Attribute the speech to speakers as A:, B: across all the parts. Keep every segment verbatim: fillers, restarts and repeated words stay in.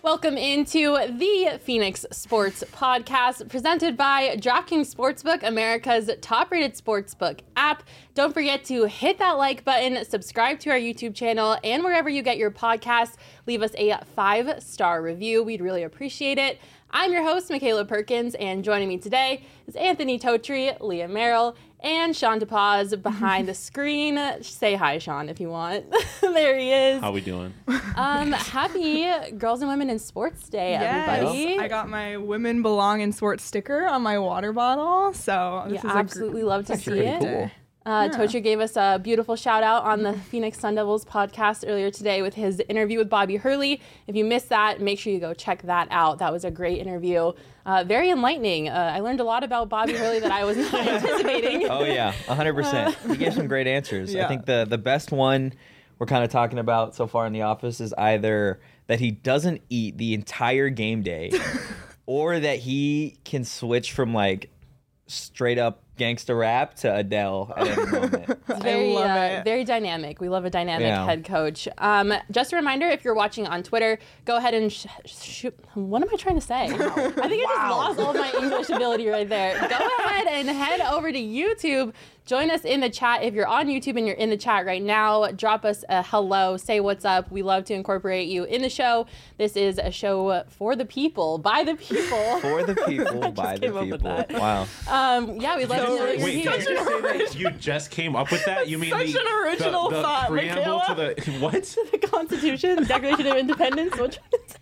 A: Welcome into the Phoenix Sports Podcast, presented by DraftKings Sportsbook, America's top-rated sportsbook app. Don't forget to hit that like button, subscribe to our YouTube channel, and wherever you get your podcasts, leave us a five-star review. We'd really appreciate it. I'm your host, Michaela Perkins, and joining me today is Anthony Totri, Leah Merrill, and Sean DePaz behind the screen. Say hi, Sean, if you want. There he is.
B: How we doing?
A: Um, happy Girls and Women in Sports Day,
C: yes.
A: everybody.
C: I got my Women Belong in Sports sticker on my water bottle, so this
A: yeah,
C: is
A: absolutely
C: a gr-
A: love to see it.
C: Cool.
A: Uh,
C: Yeah.
A: Totri gave us a beautiful shout out on the Phoenix Sun Devils podcast earlier today with his interview with Bobby Hurley. If you missed that, make sure you go check that out. That was a great interview. Uh, very enlightening. Uh, I learned a lot about Bobby Hurley that I was not anticipating.
D: Oh, yeah, one hundred percent. He gave some great answers.
C: Yeah.
D: I think the, the best one we're kind of talking about so far in the office is either that he doesn't eat the entire game day or that he can switch from, like, straight up gangsta rap to Adele at any moment.
A: It's very,
C: I love
A: uh,
C: it.
A: very dynamic. We love a dynamic
D: Yeah.
A: head coach. Um, just a reminder, if you're watching on Twitter, go ahead and sh- sh- what am I trying to say? I think I just lost all of my English ability right there. Go ahead and head over to YouTube. Join us in the chat. If you're on YouTube and you're in the chat right now, drop us a hello, say what's up. We love to incorporate you in the show. This is a show for the people, by the people.
D: For the people, by the
A: came up with
D: people.
A: that.
D: Wow.
A: Um, yeah, we'd love to know that you're
B: Wait,
A: here.
B: did you say that you just came up with that? You mean
C: Such
B: the,
C: an original
B: the, the
C: thought,
B: preamble to the what?
A: The Constitution, Declaration of Independence. Which one is it?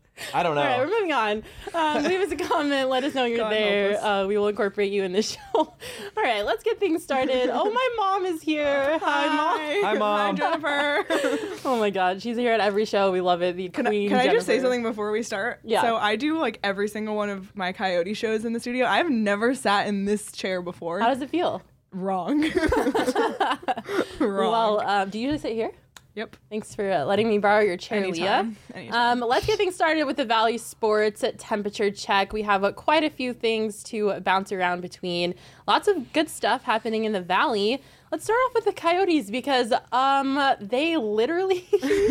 D: I don't know.
A: All right, we're moving on. Um, leave us a comment. Let us know you're
C: God
A: there.
C: help us.
A: Uh, we will incorporate you in the show. All right, let's get things started. Oh, my mom is here. Hi, mom.
D: Hi, Mom.
C: Hi, Jennifer.
A: Oh my God, she's here at every show. We love it. The
C: Can, I,
A: Queen.
C: can I just say
A: Jennifer.
C: something before we start?
A: Yeah.
C: So I do like every single one of my Coyote shows in the studio. I've never sat in this chair before.
A: How does it feel?
C: Wrong. Wrong.
A: Well, um, do you usually sit here?
C: yep.
A: Thanks for uh, letting me borrow your chair,
C: Anytime.
A: Leah.
C: Anytime.
A: Um, let's get things started with the Valley Sports temperature check. We have uh, quite a few things to bounce around between. Lots of good stuff happening in the Valley. Let's start off with the Coyotes because um, they literally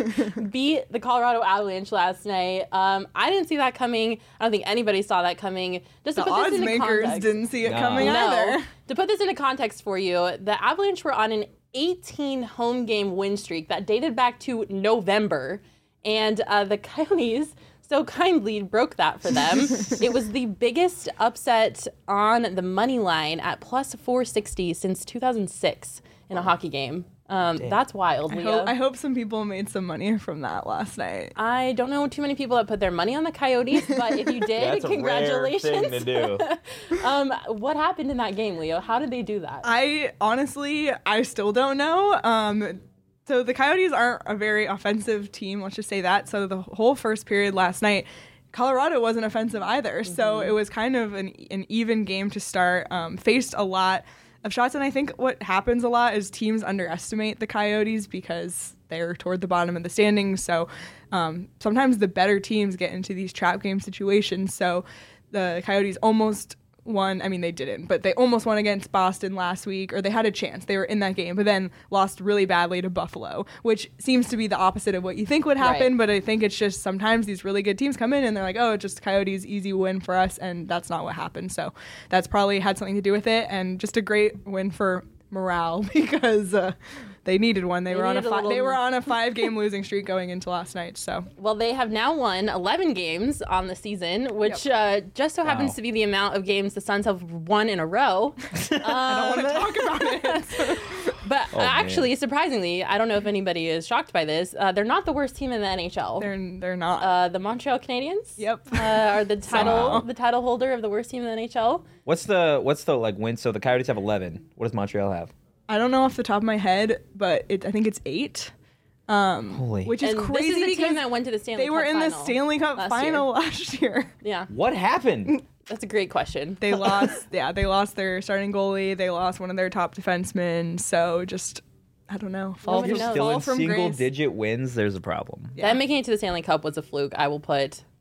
A: beat the Colorado Avalanche last night. Um, I didn't see that coming. I don't think anybody saw that coming. Just to
C: The
A: put this
C: odds
A: into
C: makers
A: context.
C: didn't see it
D: No.
C: coming
A: No.
C: either.
A: To put this into context for you, the Avalanche were on an eighteen home game win streak that dated back to November, and uh, the Coyotes so kindly broke that for them. It was the biggest upset on the money line at plus four sixty since two thousand six in a hockey game. Um, that's wild,
C: I
A: Leah.
C: hope, I hope some people made some money from that last night.
A: I don't know too many people that put their money on the Coyotes, but if you did,
D: That's a
A: congratulations.
D: rare thing to do.
A: um, what happened in that game, Leo? How did they do that?
C: I honestly, I still don't know. Um, so the Coyotes aren't a very offensive team, let's just say that. So the whole first period last night, Colorado wasn't offensive either. Mm-hmm. So it was kind of an, an even game to start. Um, faced a lot of shots, and I think what happens a lot is teams underestimate the Coyotes because they're toward the bottom of the standings. So um, sometimes the better teams get into these trap game situations. So the Coyotes almost won. I mean, they didn't, but they almost won against Boston last week, or they had a chance. They were in that game, but then lost really badly to Buffalo, which seems to be the opposite of what you think would happen.
A: Right.
C: But I think it's just sometimes these really good teams come in and they're like, oh, just Coyotes, easy win for us. And that's not what happened. So that's probably had something to do with it. And just a great win for morale because uh, they needed one. They,
A: They
C: were on a,
A: needed a
C: fi-
A: little-
C: they were on a five game losing streak going into last night. So
A: Well, they have now won eleven games on the season, which uh, just so happens
D: Wow.
A: to be the amount of games the Suns have won in a row. Um,
C: I don't want to talk about it.
A: But
D: Oh,
A: uh,
D: man.
A: actually, surprisingly, I don't know if anybody is shocked by this. Uh, they're not the worst team in the N H L.
C: they're they're not.
A: Uh, the Montreal Canadiens
C: Yep.
A: uh, are the title
C: Somehow.
A: the title holder of the worst team in the N H L.
D: What's the what's the like win? So the Coyotes have eleven. What does Montreal have?
C: I don't know off the top of my head, but it, I think it's eight. Um,
D: Holy.
C: which is
A: And
C: crazy
A: this is the
C: because
A: team that went to the Stanley
C: they were
A: Cup
C: in the
A: final
C: Stanley Cup
A: last
C: final
A: year.
C: last year.
A: Yeah,
D: What happened?
A: that's a great question.
C: They lost, yeah, they lost their starting goalie. They lost one of their top defensemen. So just, I don't know, fall
A: Nobody
C: from,
A: knows.
D: Still
C: fall
D: in
C: from
D: single
C: grace.
D: digit wins. There's a problem.
C: Yeah.
A: Them making it to the Stanley Cup was a fluke. I will put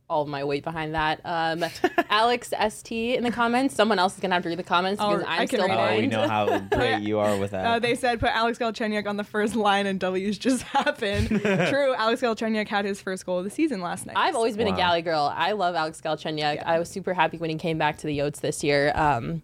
A: all of my weight behind that. Um, Alex S T in the comments. Someone else is going to have to read the comments because
C: I'll-
A: I'm
C: I can
A: still
C: read it.
D: Oh, we
A: blind.
D: know how great you are with that.
C: Uh, they said put Alex Galchenyuk on the first line and W's just happened. True, Alex Galchenyuk had his first goal of the season last night.
A: I've always been
D: Wow.
A: a Galley girl. I love Alex Galchenyuk.
C: Yeah.
A: I was super happy when he came back to the Yotes this year. Um,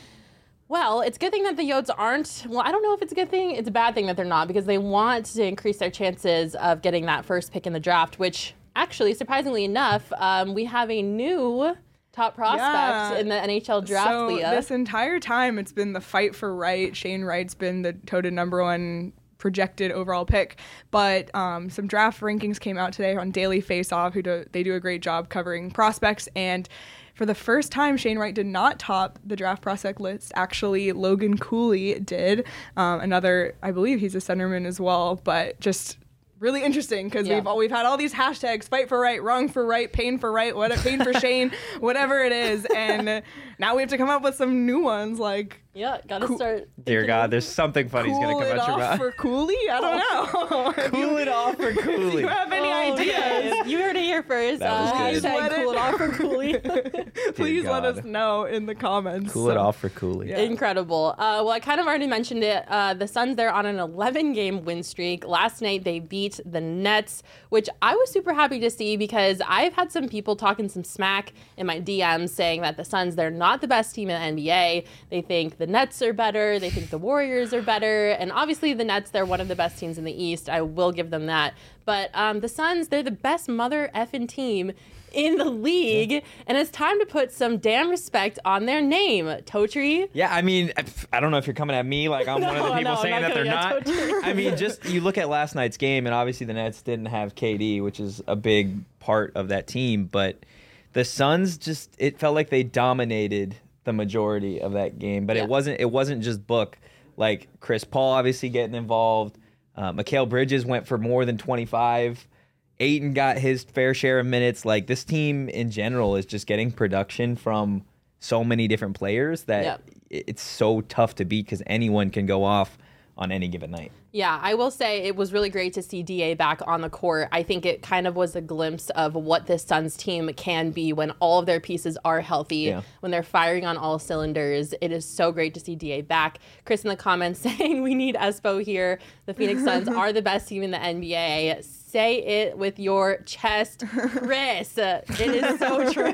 A: well, it's a good thing that the Yotes aren't. Well, I don't know if it's a good thing. It's a bad thing that they're not because they want to increase their chances of getting that first pick in the draft, which actually, surprisingly enough, um, we have a new top prospect
C: Yeah.
A: in the N H L draft,
C: so
A: Leah.
C: this entire time, it's been the fight for Wright. Shane Wright's been the toted number one projected overall pick, but um, some draft rankings came out today on Daily Faceoff, who do, they do a great job covering prospects, and for the first time, Shane Wright did not top the draft prospect list. Actually, Logan Cooley did. Um, another, I believe he's a centerman as well, but just really interesting because
A: Yeah.
C: we've all, we've had all these hashtags: fight for right, wrong for right, pain for right, what pain for Shane, whatever it is, and now we have to come up with some new ones like
A: yeah, gotta
C: Cool-
A: start.
D: Dear
A: thinking-
D: God, there's something funny he's
C: cool
D: going to
C: it
D: come at you
C: off
D: about.
C: for Cooley. I don't know. If you-
D: Cool it off for
C: if
D: Cooley.
C: you have any
A: Oh,
C: ideas?
A: yes. You heard it here first.
D: That was
A: uh,
D: good.
A: hashtag
C: Let it-
A: cool it off for Cooley.
C: Please let
D: God.
C: us know in the comments.
D: Cool it
C: So-
D: off for Cooley.
C: Yeah.
A: Incredible. Uh, well, I kind of already mentioned it. Uh, the Suns, they're on an eleven game win streak. Last night, they beat the Nets, which I was super happy to see because I've had some people talking some smack in my D Ms saying that the Suns, they're not the best team in the N B A. They think the Nets are better. They think the Warriors are better. And obviously, the Nets, they're one of the best teams in the East. I will give them that. But um, the Suns, they're the best mother effing team in the league, and it's time to put some damn respect on their name. Totri.
D: Yeah, I mean, I don't know if you're coming at me like I'm one of the
A: No,
D: people
A: no,
D: saying
A: I'm
D: that
A: not
D: they're
A: coming
D: not.
A: at Totri.
D: I mean, just you look at last night's game, and obviously the Nets didn't have K D, which is a big part of that team. But the Suns just it felt like they dominated the majority of that game. But
A: Yeah.
D: it wasn't it wasn't just Book. Like Chris Paul obviously getting involved. Uh, Mikal Bridges went for more than twenty-five. Ayton got his fair share of minutes. Like this team in general is just getting production from so many different players that
A: Yeah.
D: it- it's so tough to beat because anyone can go off on any given night.
A: Yeah, I will say it was really great to see D A back on the court. I think it kind of was a glimpse of what this Suns team can be when all of their pieces are healthy,
D: Yeah.
A: when they're firing on all cylinders. It is so great to see D A back. Chris in the comments saying we need Espo here. The Phoenix Suns are the best team in the N B A. Say it with your chest, Chris. It is so true.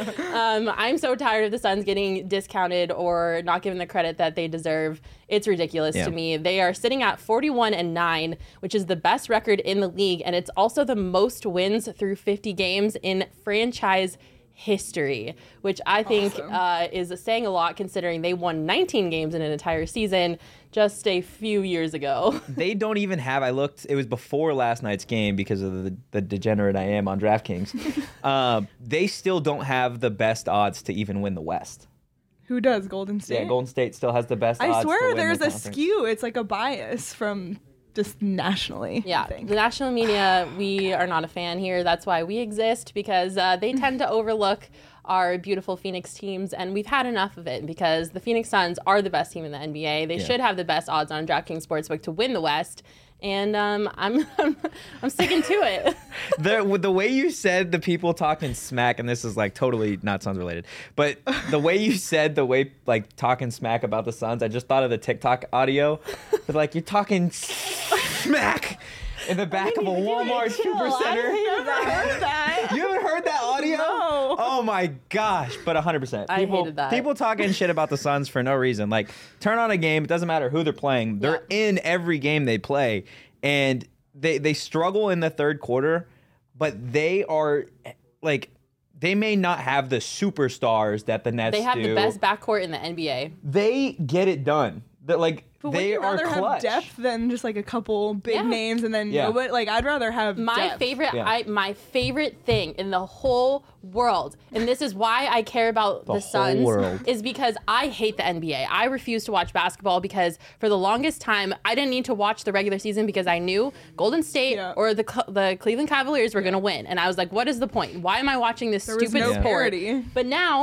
A: Um, I'm so tired of the Suns getting discounted or not given the credit that they deserve. It's ridiculous
D: Yeah.
A: to me. They are sitting at forty-one and nine, which is the best record in the league, and it's also the most wins through fifty games in franchise history, which I think
C: Awesome.
A: uh, is saying a lot considering they won nineteen games in an entire season just a few years ago.
D: They don't even have. I looked. It was before last night's game because of the, the degenerate I am on DraftKings. uh, they still don't have the best odds to even win the West.
C: Who does Golden State?
D: Yeah, Golden State still has the best odds.
C: I
D: to
C: swear
D: win
C: there's
D: the
C: a
D: conference.
C: skew. It's like a bias from just nationally. I
A: Yeah,
C: think.
A: the national media, we are not a fan here. That's why we exist, because uh, they tend to overlook our beautiful Phoenix teams, and we've had enough of it because the Phoenix Suns are the best team in the N B A. They
D: Yeah.
A: should have the best odds on DraftKings Sportsbook to win the West, and um, I'm, I'm I'm sticking to it.
D: the with the way you said the people talking smack, and this is like totally not Suns related, but the way you said the way like talking smack about the Suns, I just thought of the TikTok audio. But like you're talking smack in the back of a Walmart Supercenter. You haven't heard that audio?
C: No.
D: Oh my gosh! But one hundred percent.
A: I
D: People,
A: hated that.
D: people talking shit about the Suns for no reason. Like turn on a game. It doesn't matter who they're playing. They're in every game they play, and they they struggle in the third quarter, but they are like they may not have the superstars that the Nets
A: They have
D: do.
A: the best backcourt in the N B A.
D: They get it done. That like
C: But
D: they
C: would you
D: are
C: rather
D: clutch.
C: have depth than just like a couple big
A: Yeah.
C: names and then
D: Yeah.
C: nobody? Like I'd rather have
A: My
C: depth.
A: favorite,
D: Yeah.
A: I my favorite thing in the whole world, and this is why I care about the,
D: whole
A: Suns,
D: world.
A: is because I hate the N B A. I refuse to watch basketball because for the longest time I didn't need to watch the regular season because I knew Golden State
C: Yeah.
A: or the Cl- the Cleveland Cavaliers were going to win, and I was like, what is the point? Why am I watching this
C: There was
A: stupid
C: no
A: sport?
C: parity.
A: But now,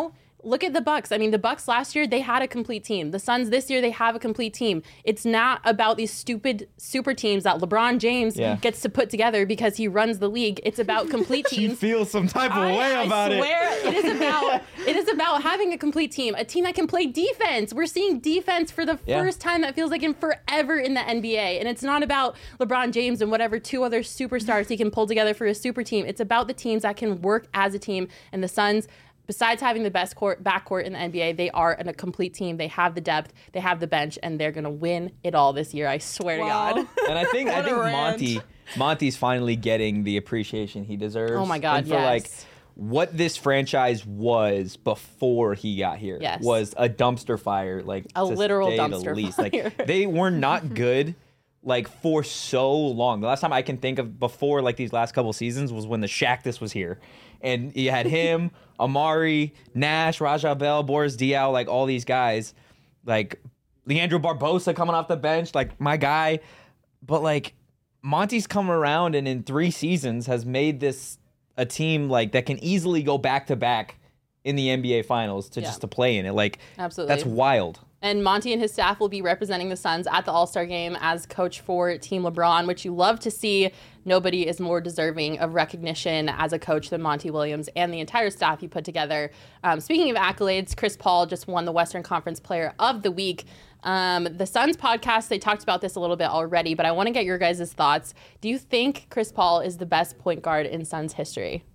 A: look at the Bucks. I mean, the Bucks last year, they had a complete team. The Suns this year, they have a complete team. It's not about these stupid super teams that LeBron James
D: Yeah.
A: gets to put together because he runs the league. It's about complete
D: She
A: teams.
D: feels some type of
A: I,
D: way
A: I
D: about
A: swear
D: it.
A: it is about it is about having a complete team, a team that can play defense. We're seeing defense for the
D: Yeah.
A: first time that feels like in forever in the N B A, and it's not about LeBron James and whatever two other superstars he can pull together for a super team. It's about the teams that can work as a team, and the Suns, besides having the best court backcourt in the N B A, they are in a complete team. They have the depth, they have the bench, and they're gonna win it all this year. I swear
C: Wow.
A: to God.
D: And I think I
C: What a
D: think
C: rant.
D: Monty Monty's finally getting the appreciation he deserves.
A: Oh my God,
D: and for
A: yes.
D: like what this franchise was before he got here
A: Yes.
D: was a dumpster fire, like
A: A
D: to
A: literal
D: say the
A: dumpster
D: least.
A: fire.
D: Like they were not good like for so long. The last time I can think of before like these last couple seasons was when the Shaqtus was here. And you had him, Amari, Nash, Raja Bell, Boris Diaw, like all these guys, like Leandro Barbosa coming off the bench, like my guy. But like Monty's come around and in three seasons has made this a team like that can easily go back to back in the N B A finals to
A: Yeah.
D: just to play in it. Like
A: Absolutely.
D: that's wild.
A: And Monty and his staff will be representing the Suns at the All-Star Game as coach for Team LeBron, which you love to see. Nobody is more deserving of recognition as a coach than Monty Williams and the entire staff he put together. Um, speaking of accolades, Chris Paul just won the Western Conference Player of the Week. Um, the Suns podcast, they talked about this a little bit already, but I want to get your guys' thoughts. Do you think Chris Paul is the best point guard in Suns history?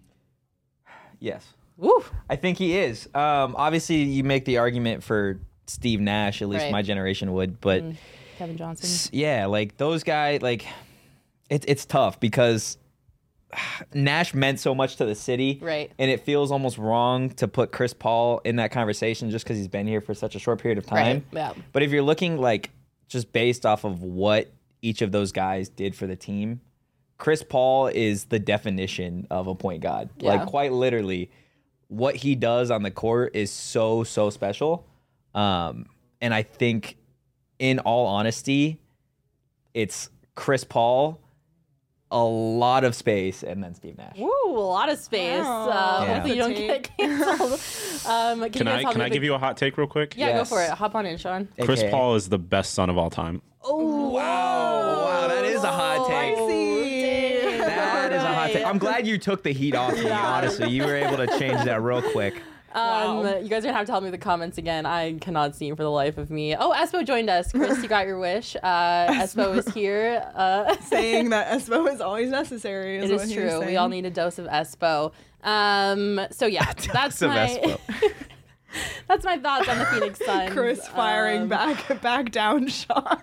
D: Yes.
A: Woo!
D: I think he is. Um, obviously, you make the argument for Steve Nash, at least
A: Right.
D: my generation would, but
A: Kevin Johnson.
D: s- yeah, like those guys, like it's it's tough because Nash meant so much to the city,
A: Right.
D: And it feels almost wrong to put Chris Paul in that conversation just because he's been here for such a short period of
A: Right,
D: time.
A: yeah.
D: But if you're looking like just based off of what each of those guys did for the team, Chris Paul is the definition of a point guard.
A: Yeah.
D: Like quite literally, what he does on the court is so so special. Um, and I think, in all honesty, it's Chris Paul, a lot of space, and then Steve Nash.
A: Woo, a lot of space.
C: Wow.
A: Uh,
D: Yeah.
A: Hopefully you don't get
C: Take.
A: canceled. Um, can
B: Can
A: you guys
B: I
A: help
B: can
A: me
B: I
A: with
B: give
A: the-
B: you a hot take real quick?
A: Yeah,
D: Yes.
A: go for it. Hop on in, Sean.
B: Chris
D: A K A.
B: Paul is the best son of all time.
A: Oh,
D: Wow, wow, that is a hot take.
C: Spicy.
D: That is a hot take. I'm glad you took the heat off me,
A: Yeah.
D: honestly. You were able to change that real quick.
A: Um,
C: Wow.
A: You guys are gonna have to help me with the comments again. I cannot see for the life of me. Oh, Espo joined us. Chris, you got your wish. Uh, Espo is here. Uh,
C: Saying that Espo is always necessary. Is
A: it
C: what
A: is
C: he was
A: true. We
C: saying.
A: all need a dose of Espo. Um, so yeah, that's
D: of
A: my
D: Espo.
A: that's my thoughts on the Phoenix Suns.
C: Chris firing
A: Um,
C: back back down Sean.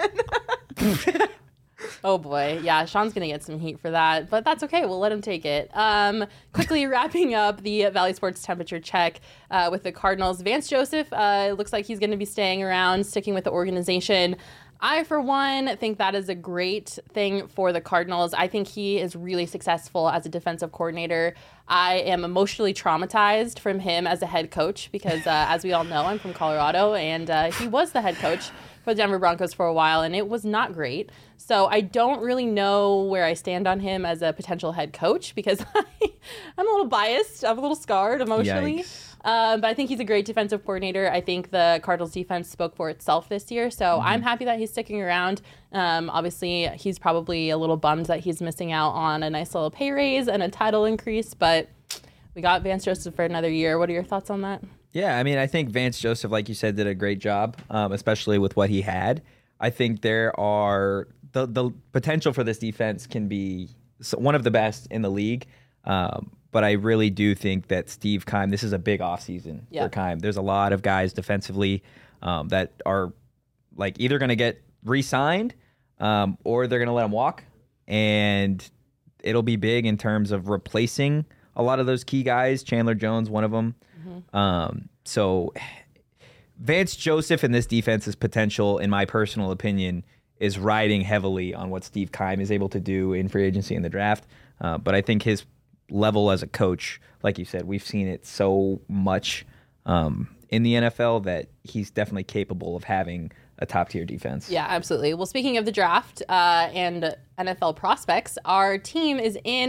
A: Oh boy, yeah, Sean's gonna get some heat for that, but that's okay. We'll let him take it. Um, quickly wrapping up the Valley Sports temperature check uh, with the Cardinals. Vance Joseph uh, looks like he's going to be staying around, sticking with the organization. I, for one, think that is a great thing for the Cardinals. I think he is really successful as a defensive coordinator. I am emotionally traumatized from him as a head coach because, uh, as we all know, I'm from Colorado, and uh, he was the head coach for the Denver Broncos for a while, and it was not great. So I don't really know where I stand on him as a potential head coach because I, I'm a little biased. I'm a little scarred emotionally.
D: Yikes.
A: Um, but I think he's a great defensive coordinator. I think the Cardinals defense spoke for itself this year. So
D: Mm-hmm.
A: I'm happy that he's sticking around. Um, obviously, he's probably a little bummed that he's missing out on a nice little pay raise and a title increase. But we got Vance Joseph for another year. What are your thoughts on that?
D: Yeah, I mean, I think Vance Joseph, like you said, did a great job, um, especially with what he had. I think there are the the potential for this defense can be s- one of the best in the league. Um, but I really do think that Steve Keim, this is a big offseason
A: Yeah.
D: for Keim. There's a lot of guys defensively um, that are like either going to get re-signed um, or they're going to let them walk. And it'll be big in terms of replacing a lot of those key guys. Chandler Jones, one of them. Um, so Vance Joseph and this defense's potential, in my personal opinion, is riding heavily on what Steve Keim is able to do in free agency and the draft. Uh, but I think his level as a coach, like you said, we've seen it so much um, in the N F L that he's definitely capable of having a top tier defense.
A: Yeah, absolutely. Well, speaking of the draft uh, and N F L prospects, our team is in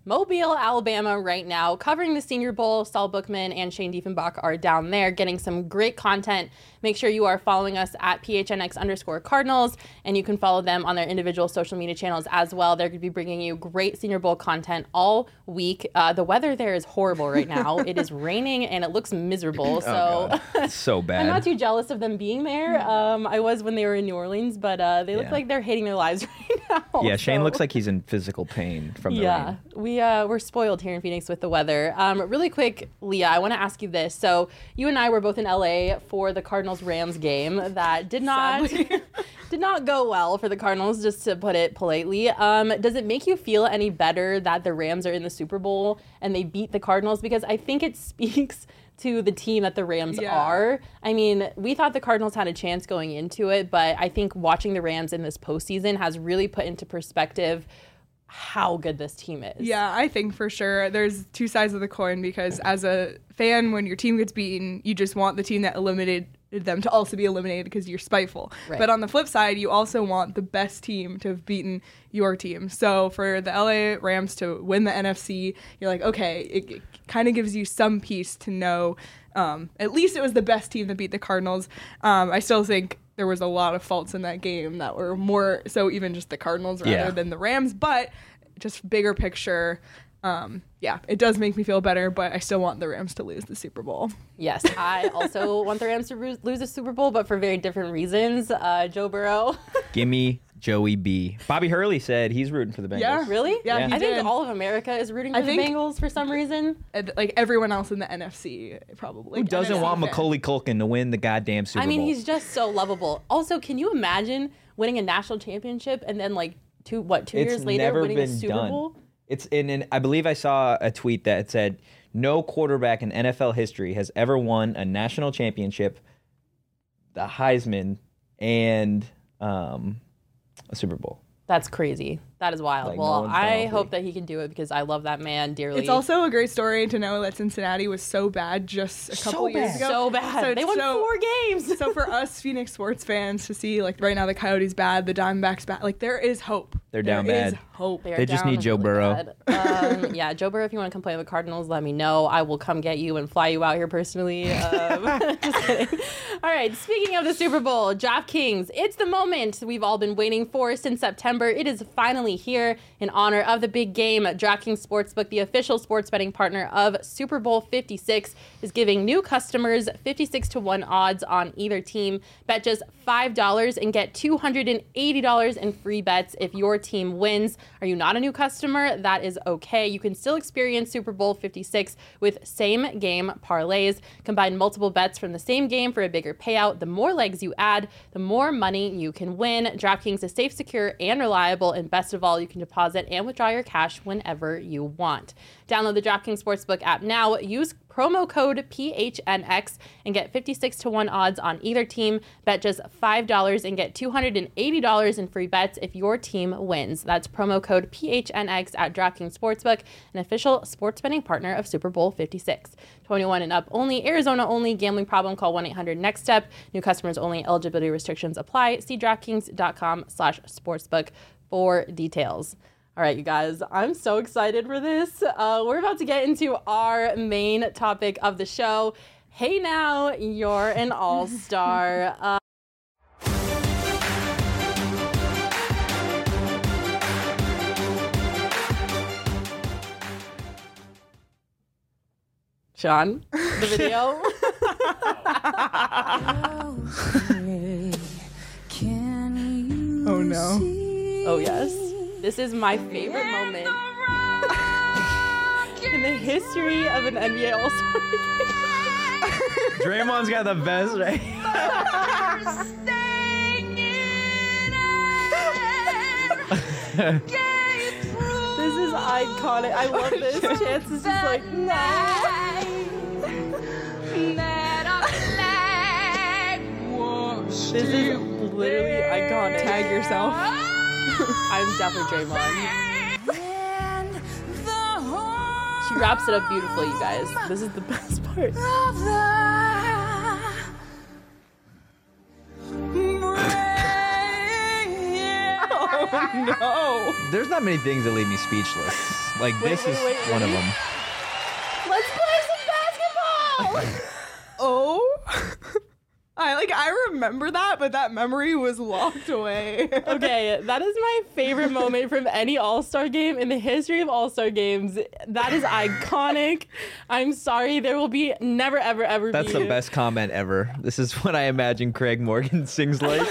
A: Mobile, Alabama right now, covering the Senior Bowl. Saul Bookman and Shane Diefenbach are down there getting some great content. Make sure you are following us at P H N X underscore Cardinals, and you can follow them on their individual social media channels as well. They're going to be bringing you great Senior Bowl content all week. Uh, the weather there is horrible right now. It is raining and it looks miserable. So
D: Oh, God. So bad.
A: I'm not too jealous of them being there. Um, I was when they were in New Orleans, but uh, they look
D: Yeah.
A: like they're hating their lives right now.
D: Yeah, Shane
A: so.
D: looks like he's in physical pain from the
A: Yeah,
D: rain.
A: we uh, we're spoiled here in Phoenix with the weather. Um, really quick, Leah, I want to ask you this. So you and I were both in L A for the Cardinals Rams game that did not did not go well for the Cardinals, just to put it politely. Um, does it make you feel any better that the Rams are in the Super Bowl and they beat the Cardinals? Because I think it speaks to the team that the Rams
C: Yeah.
A: are. I mean, we thought the Cardinals had a chance going into it, but I think watching the Rams in this postseason has really put into perspective how good this team is.
C: Yeah, I think for sure there's two sides of the coin, because as a fan, when your team gets beaten, you just want the team that eliminated them to also be eliminated because you're spiteful.
A: Right.
C: But on the flip side, you also want the best team to have beaten your team. So for the L A Rams to win the N F C, you're like, okay, it, it kind of gives you some peace to know um, at least it was the best team that beat the Cardinals. Um, I still think there was a lot of faults in that game that were more so even just the Cardinals rather
D: Yeah.
C: than the Rams, but just bigger picture. Um, yeah, it does make me feel better, but I still want the Rams to lose the Super Bowl.
A: Yes, I also want the Rams to ru- lose a Super Bowl, but for very different reasons. Uh, Joe Burrow.
D: Gimme Joey B. Bobby Hurley said he's rooting for the Bengals.
C: Yeah.
A: Really?
C: Yeah,
D: Yeah.
C: he
A: I think
C: did.
A: all of America is rooting for
C: I
A: the
C: think-
A: Bengals for some reason.
C: And, like everyone else in the N F C, probably.
D: Who doesn't
C: N F C
D: want
C: fans.
D: Macaulay Culkin to win the goddamn Super
A: I mean,
D: Bowl?
A: he's just so lovable. Also, can you imagine winning a national championship and then like two what two
D: It's
A: years later
D: never
A: winning a
D: been
A: Super
D: done.
A: Bowl?
D: It's in, in, I believe I saw a tweet that said, no quarterback in N F L history has ever won a national championship, the Heisman, and um, a Super Bowl.
A: That's crazy. That is wild.
D: Like, no
A: well,
D: one's done
A: I
D: all
A: hope
D: three.
A: that he can do it because I love that man dearly.
C: It's also a great story to know that Cincinnati was so bad just a
D: So
C: couple years
D: bad.
C: ago.
A: so bad.
C: So
A: they
C: it's
A: won
C: so-
A: four games.
C: So for us Phoenix sports fans to see, like, right now the Coyotes bad, the Diamondbacks bad, like there is hope.
D: They're down
C: There is
D: bad.
C: hope.
A: They, are
D: They just
A: down
D: need Joe
A: really
D: Burrow.
A: bad. Um, yeah, Joe Burrow, if you want to come play with the Cardinals, let me know. I will come get you and fly you out here personally. Um, just kidding. All right, speaking of the Super Bowl, DraftKings, it's the moment we've all been waiting for since September. It is finally here in honor of the big game. DraftKings Sportsbook, the official sports betting partner of Super Bowl fifty-six, is giving new customers fifty-six to one odds on either team. Bet just five dollars and get two hundred eighty dollars in free bets if your team wins. Are you not a new customer? That is okay. You can still experience Super Bowl fifty-six with same game parlays. Combine multiple bets from the same game for a bigger payout. The more legs you add, the more money you can win. DraftKings is safe, secure, and reliable. And best of all, you can deposit and withdraw your cash whenever you want. Download the DraftKings Sportsbook app now. Use promo code P H N X and get fifty-six to one odds on either team. Bet just five dollars and get two hundred eighty dollars in free bets if your team wins. That's promo code P H N X at DraftKings Sportsbook, an official sports betting partner of Super Bowl fifty-six. twenty-one and up only, Arizona only. Gambling problem, call one eight hundred next step. New customers only. Eligibility restrictions apply. See DraftKings.com slash sportsbook for details. All right, you guys, I'm so excited for this. Uh, we're about to get into our main topic of the show. Hey now, you're an all-star. Uh, Sean, the video.
C: Oh no.
A: Oh, yes. This is my favorite moment in the history of an N B A All-Star.
D: Draymond's got the best, right?
A: This is iconic. I love this. Chance is just like, this is literally iconic.
C: Tag yourself.
A: I'm definitely Draymond. She wraps it up beautifully, you guys. This is the best part.
C: Oh no.
D: There's not many things that leave me speechless. Like
A: Wait,
D: this
A: wait,
D: is
A: wait,
D: one of
A: wait.
D: them.
A: Let's play some basketball.
C: Oh. I like I remember that, but that memory was locked away.
A: Okay, that is my favorite moment from any All-Star game in the history of All-Star games. That is iconic. I'm sorry, there will be never, ever, ever
D: That's
A: be.
D: the best comment ever. This is what I imagine Craig Morgan sings like.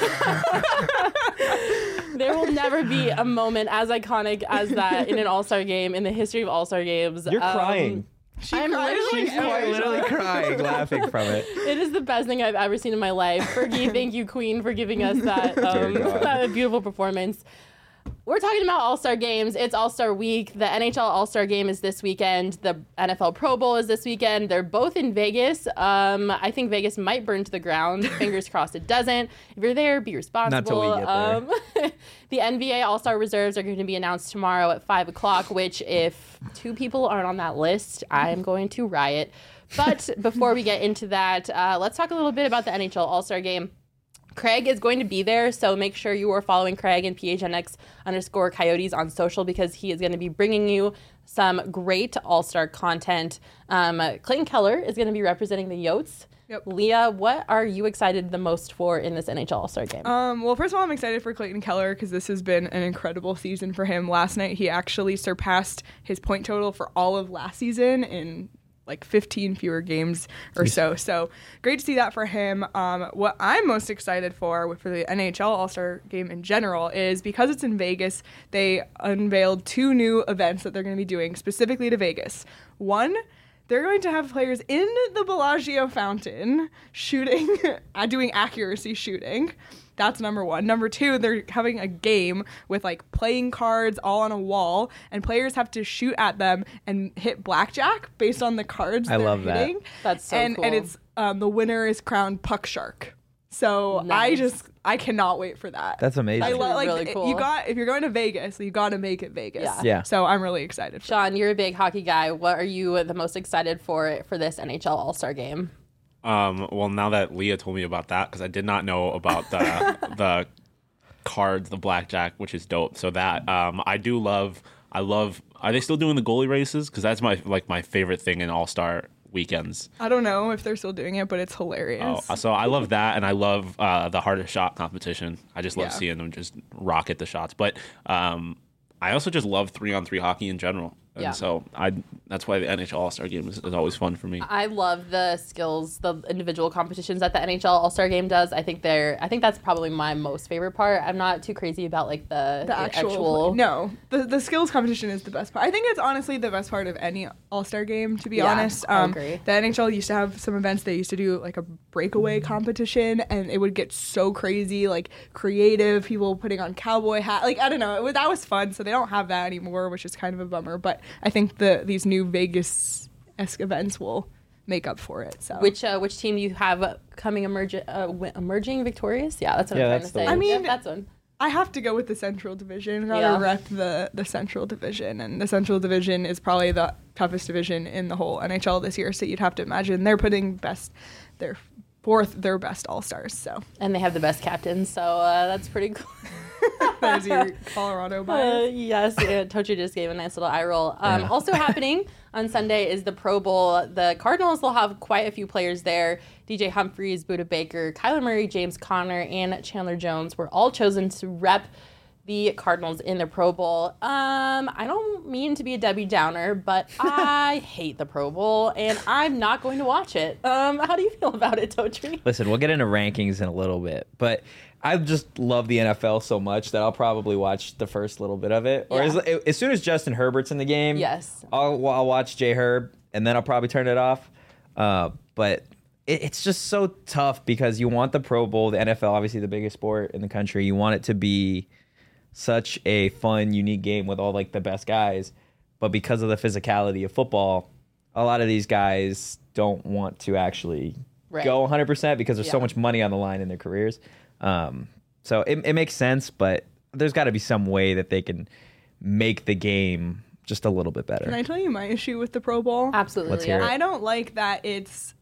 A: There will never be a moment as iconic as that in an All-Star game in the history of All-Star games.
D: You're
A: Um,
D: crying.
C: She
A: I'm
C: cried
A: literally
C: like
D: She's quite
C: every
D: literally
C: time.
D: crying, laughing from it.
A: It is the best thing I've ever seen in my life. Fergie, thank you, Queen, for giving us that,
D: Dear
A: um,
D: God.
A: that beautiful performance. We're talking about All-Star games. It's All-Star week. The N H L All-Star game is this weekend. The N F L Pro Bowl is this weekend. They're both in Vegas. Um, I think Vegas might burn to the ground. Fingers crossed it doesn't. If you're there, be responsible.
D: Not till we get there.
A: Um, the N B A All-Star reserves are going to be announced tomorrow at five o'clock, which if two people aren't on that list, I'm going to riot. But before we get into that, uh, let's talk a little bit about the N H L All-Star game. Craig is going to be there, so make sure you are following Craig and P H N X underscore Coyotes on social because he is going to be bringing you some great All-Star content. Um, Clayton Keller is going to be representing the Yotes.
C: Yep.
A: Leah, what are you excited the most for in this N H L All-Star game?
C: Um, well, first of all, I'm excited for Clayton Keller because this has been an incredible season for him. Last night, he actually surpassed his point total for all of last season in like fifteen fewer games or so. So great to see that for him. Um, what I'm most excited for for the N H L All-Star game in general is because it's in Vegas, they unveiled two new events that they're going to be doing specifically to Vegas. One, they're going to have players in the Bellagio fountain shooting, uh, doing accuracy shooting. That's number one. Number two, they're having a game with like playing cards all on a wall, and players have to shoot at them and hit blackjack based on the cards
D: I
C: they're
D: love that.
C: hitting.
A: That's so
C: and,
A: cool.
C: And it's um, the winner is crowned Puck Shark. So I
A: Nice.
C: just I cannot wait for that.
D: That's amazing.
C: I
A: That's
C: love like
A: really cool.
C: you got if you're going to Vegas, you got to make it Vegas.
A: Yeah.
D: Yeah.
C: So I'm really excited. For
A: Sean, you're a big hockey guy. What are you the most excited for for this N H L All-Star game?
B: Um, well, now that Leah told me about that, because I did not know about the the cards, the blackjack, which is dope. So that um, I do love. I love. Are they still doing the goalie races? Because that's my like my favorite thing in All Star weekends.
C: I don't know if they're still doing it, but it's hilarious.
B: Oh, so I love that, and I love uh, the hardest shot competition. I just love
C: Yeah.
B: seeing them just rocket the shots. But um, I also just love three on three hockey in general. And
A: Yeah.
B: so I that's why the N H L All Star game is, is always fun for me.
A: I love the skills, the individual competitions that the N H L All-Star game does. I think they're I think that's probably my most favorite part. I'm not too crazy about like the,
C: the actual, no the the skills competition is the best part. I think it's honestly the best part of any all-star game, to be
A: Yeah,
C: honest.
A: I
C: um
A: agree.
C: The N H L used to have some events. They used to do like a breakaway competition, and it would get so crazy, like creative people putting on cowboy hat, like I don't know, it was, that was fun. So they don't have that anymore, which is kind of a bummer, but I think the these new Vegas-esque events will make up for it. So
A: Which uh, which team do you have coming emerge, uh, wi- emerging victorious? Yeah, that's what
D: Yeah,
A: I'm trying
D: that's
A: to
D: the
A: say.
D: one.
C: I mean,
A: Yep, that's one.
C: I have to go with the Central Division. Gotta
A: Yeah.
C: rep the, the Central Division. And the Central Division is probably the toughest division in the whole N H L this year. So you'd have to imagine they're putting best their fourth their best all-stars. So
A: And they have the best captain, so uh, that's pretty cool.
C: there's your Colorado
A: Uh,
C: bias.
A: yes, yeah, Tochi just gave a nice little eye roll. Um,
D: Yeah.
A: Also happening on Sunday is the Pro Bowl. The Cardinals will have quite a few players there. D J Humphries, Buda Baker, Kyler Murray, James Conner, and Chandler Jones were all chosen to rep the Cardinals in the Pro Bowl. Um, I don't mean to be a Debbie Downer, but I hate the Pro Bowl, and I'm not going to watch it. Um, how do you feel about it, Totri?
D: Listen, we'll get into rankings in a little bit, but I just love the N F L so much that I'll probably watch the first little bit of it. Or
A: Yeah.
D: as, as soon as Justin Herbert's in the game,
A: Yes.
D: I'll, I'll watch J Herb, and then I'll probably turn it off. Uh, but it, it's just so tough because you want the Pro Bowl, the N F L, obviously the biggest sport in the country. You want it to be such a fun, unique game with all like the best guys, but because of the physicality of football, a lot of these guys don't want to actually
A: Right.
D: go one hundred percent because there's so
A: Yeah.
D: much money on the line in their careers. Um, so it, it makes sense, but there's got to be some way that they can make the game just a little bit better.
C: Can I tell you my issue with the Pro Bowl?
A: Absolutely.
D: Let's hear it.
C: I don't like that it's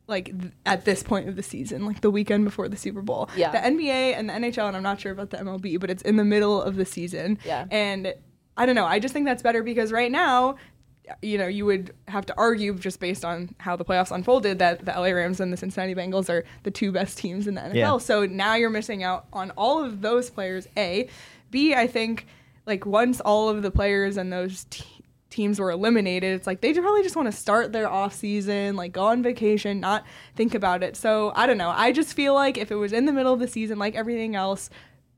C: like th- at this point of the season, like the weekend before the Super Bowl.
A: Yeah.
C: The N B A and the N H L, and I'm not sure about the M L B, but it's in the middle of the season.
A: Yeah.
C: And I don't know. I just think that's better because right now, you know, you would have to argue just based on how the playoffs unfolded that the L A Rams and the Cincinnati Bengals are the two best teams in the N F L.
D: Yeah.
C: So now you're missing out on all of those players, A. B, I think, like, once all of the players and those te- teams were eliminated, it's like they probably just want to start their off season, like go on vacation, not think about it. So I don't know. I just feel like if it was in the middle of the season, like everything else,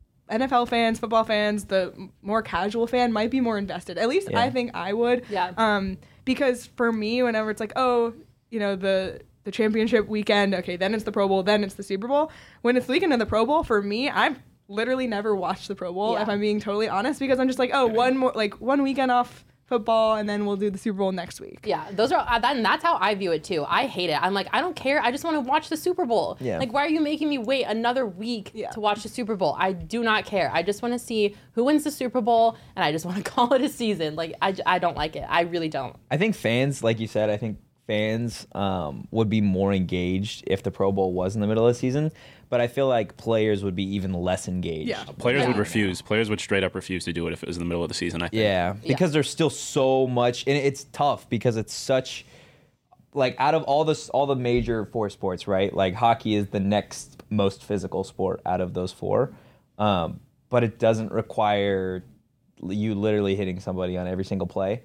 C: N F L fans, football fans, the more casual fan might be more invested. At least
D: Yeah.
C: I think I would.
A: Yeah.
C: Um, because for me, whenever it's like, oh, you know, the the championship weekend, okay, then it's the Pro Bowl, then it's the Super Bowl. When it's the weekend of the Pro Bowl, for me, I've literally never watched the Pro Bowl,
A: Yeah.
C: if I'm being totally honest, because I'm just like, oh, one more, like one weekend off football, and then we'll do the Super Bowl next week.
A: Yeah, those are uh, that, and that's how I view it too. I hate it. I'm like, I don't care. I just want to watch the Super Bowl.
D: Yeah.
A: Like, why are you making me wait another week
C: Yeah.
A: to watch the Super Bowl? I do not care. I just want to see who wins the Super Bowl, and I just want to call it a season. Like, I, j- I don't like it. I really don't.
D: I think fans, like you said, I think fans um, would be more engaged if the Pro Bowl was in the middle of the season. But I feel like players would be even less engaged.
C: Yeah.
B: Players
A: Yeah.
B: would refuse. Players would straight up refuse to do it if it was in the middle of the season, I think.
D: Yeah, because there's still so much, and it's tough because it's such, like, out of all the all the major four sports, right? Like, hockey is the next most physical sport out of those four, um, but it doesn't require you literally hitting somebody on every single play.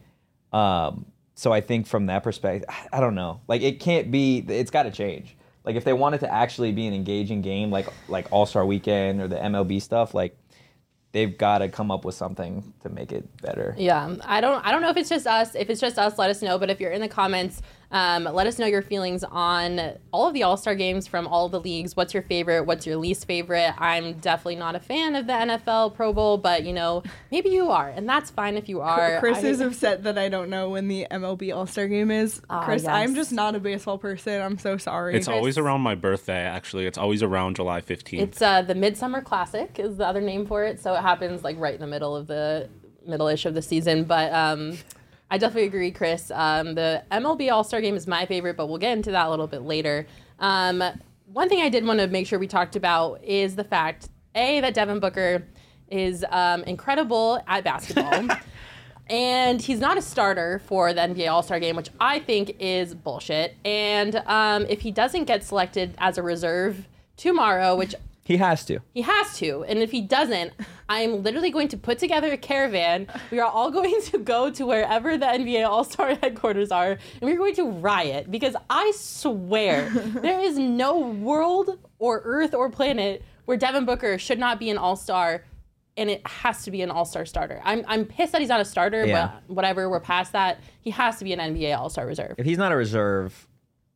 D: Um, so I think from that perspective, I don't know. Like, it can't be. It's got to change. Like, if they want it to actually be an engaging game, like like All-Star Weekend or the M L B stuff, like, they've got to come up with something to make it better.
A: Yeah, I don't. I don't know if it's just us. If it's just us, let us know. But if you're in the comments, um, let us know your feelings on all of the All-Star games from all of the leagues. What's your favorite? What's your least favorite? I'm definitely not a fan of the N F L Pro Bowl, but you know, maybe you are, and that's fine if you are.
C: Chris
A: I-
C: is upset that I don't know when the M L B All-Star Game is.
A: Ah,
C: Chris,
A: yes.
C: I'm just not a baseball person. I'm so sorry.
B: It's always around my birthday, actually. It's always around July fifteenth.
A: It's uh, the Midsummer Classic is the other name for it. So it happens like right in the middle of the middle-ish of the season. But um, I definitely agree, Chris. Um, the M L B All-Star Game is my favorite, but we'll get into that a little bit later. Um, one thing I did want to make sure we talked about is the fact, A, that Devin Booker is um, incredible at basketball. And he's not a starter for the N B A All-Star Game, which I think is bullshit. And um, if he doesn't get selected as a reserve tomorrow, which
D: He has to.
A: he has to. And if he doesn't, I'm literally going to put together a caravan. We are all going to go to wherever the N B A All-Star headquarters are, and we're going to riot because I swear there is no world or earth or planet where Devin Booker should not be an All-Star, and it has to be an All-Star starter. I'm I'm pissed that he's not a starter,
D: Yeah.
A: but whatever, we're past that. He has to be an N B A All-Star reserve.
D: If he's not a reserve,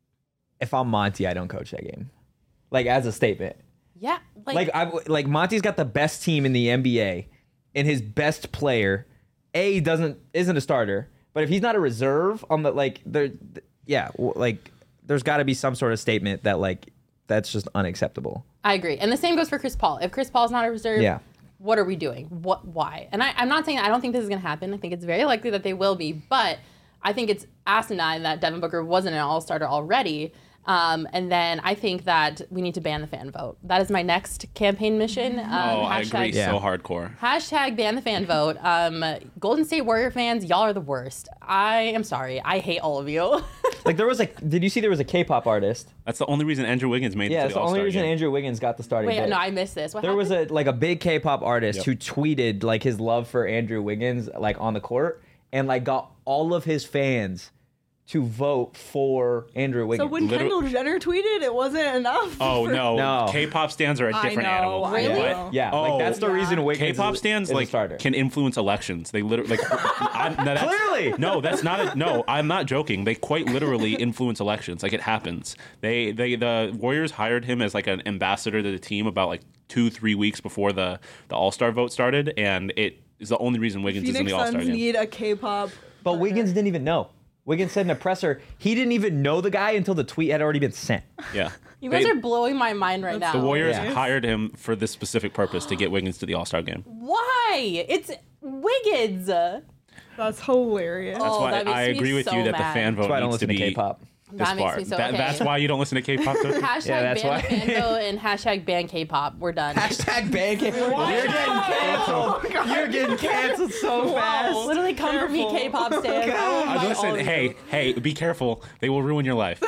D: if I'm Monty, I don't coach that game. Like, as a statement.
A: Yeah, like,
D: Like, I, like Monty's got the best team in the N B A, and his best player, A, doesn't isn't a starter. But if he's not a reserve on the, like, there, yeah, w- like, there's got to be some sort of statement that, like, that's just unacceptable.
A: I agree. And the same goes for Chris Paul. If Chris Paul's not a reserve,
D: Yeah.
A: what are we doing? What? Why? And I, I'm not saying I don't think this is going to happen. I think it's very likely that they will be. But I think it's asinine that Devin Booker wasn't an all-starter already. Um, and then I think that we need to ban the fan vote. That is my next campaign mission. Um,
B: Oh, I
A: hashtag,
B: agree.
D: Yeah.
B: So hardcore.
A: Hashtag ban the fan vote. Um, Golden State Warrior fans, y'all are the worst. I am sorry. I hate all of you.
D: Like, there was a, did you see there was a K-pop artist?
B: That's the only reason Andrew Wiggins made
D: Yeah,
B: it to
D: it's
B: the
D: the only
B: All-Star
D: reason
B: game.
D: Andrew Wiggins got the starting
A: Wait,
D: bid.
A: no, I missed this. What
D: There was
A: happened?
D: a like a big K-pop artist
B: Yep.
D: who tweeted like his love for Andrew Wiggins like on the court and like got all of his fans to vote for Andrew
C: So
D: Wiggins.
C: when
B: Literal-
C: Kendall Jenner tweeted, it wasn't enough.
B: Oh,
C: for-
B: no.
D: No.
B: K-pop stands are a
C: I
B: different
C: know,
B: animal.
C: I
A: Really?
C: know.
D: yeah,
B: Oh,
D: like that's the
C: yeah.
D: reason Wiggins
B: K-pop
D: is,
B: stands
D: is a
B: like
D: starter.
B: can influence elections. They literally like I, no, that's,
D: Clearly.
B: no, that's not a, no. I'm not joking. They quite literally influence elections. Like it happens. They they the Warriors hired him as like an ambassador to the team about like two three weeks before the the All Star vote started, and it is the only reason Wiggins is in
C: Phoenix
B: the All Star
C: Suns
B: game.
C: need a K-pop.
D: But Wiggins didn't even know. Wiggins said in a presser he didn't even know the guy until the tweet had already been sent.
B: Yeah,
A: You guys
B: They-
A: are blowing my mind right now.
B: the Warriors
D: Yeah.
B: hired him for this specific purpose to get Wiggins to the All Star game.
A: Why? It's Wiggins.
C: That's hilarious.
B: That's
A: Oh,
B: why
A: that makes
B: I
A: me
B: agree with
A: so
B: you that
A: mad.
B: the fan vote
D: That's why I don't
B: needs to
D: listen to
B: be
D: K-pop.
B: this
A: That makes
B: far.
A: me so
B: That-
A: okay.
B: That's why you don't listen to K-pop. Tochi?
A: Hashtag
D: Yeah, that's
A: ban
D: why.
A: the fandom and hashtag ban K-pop. We're done.
D: Hashtag ban K- You're getting canceled. You're getting canceled so fast.
A: Literally come for me,
C: Careful.
A: K-pop stands. I will
B: Uh,
A: fight all
B: listen,
A: of
B: hey,
A: you.
B: hey, be careful. They will ruin your life.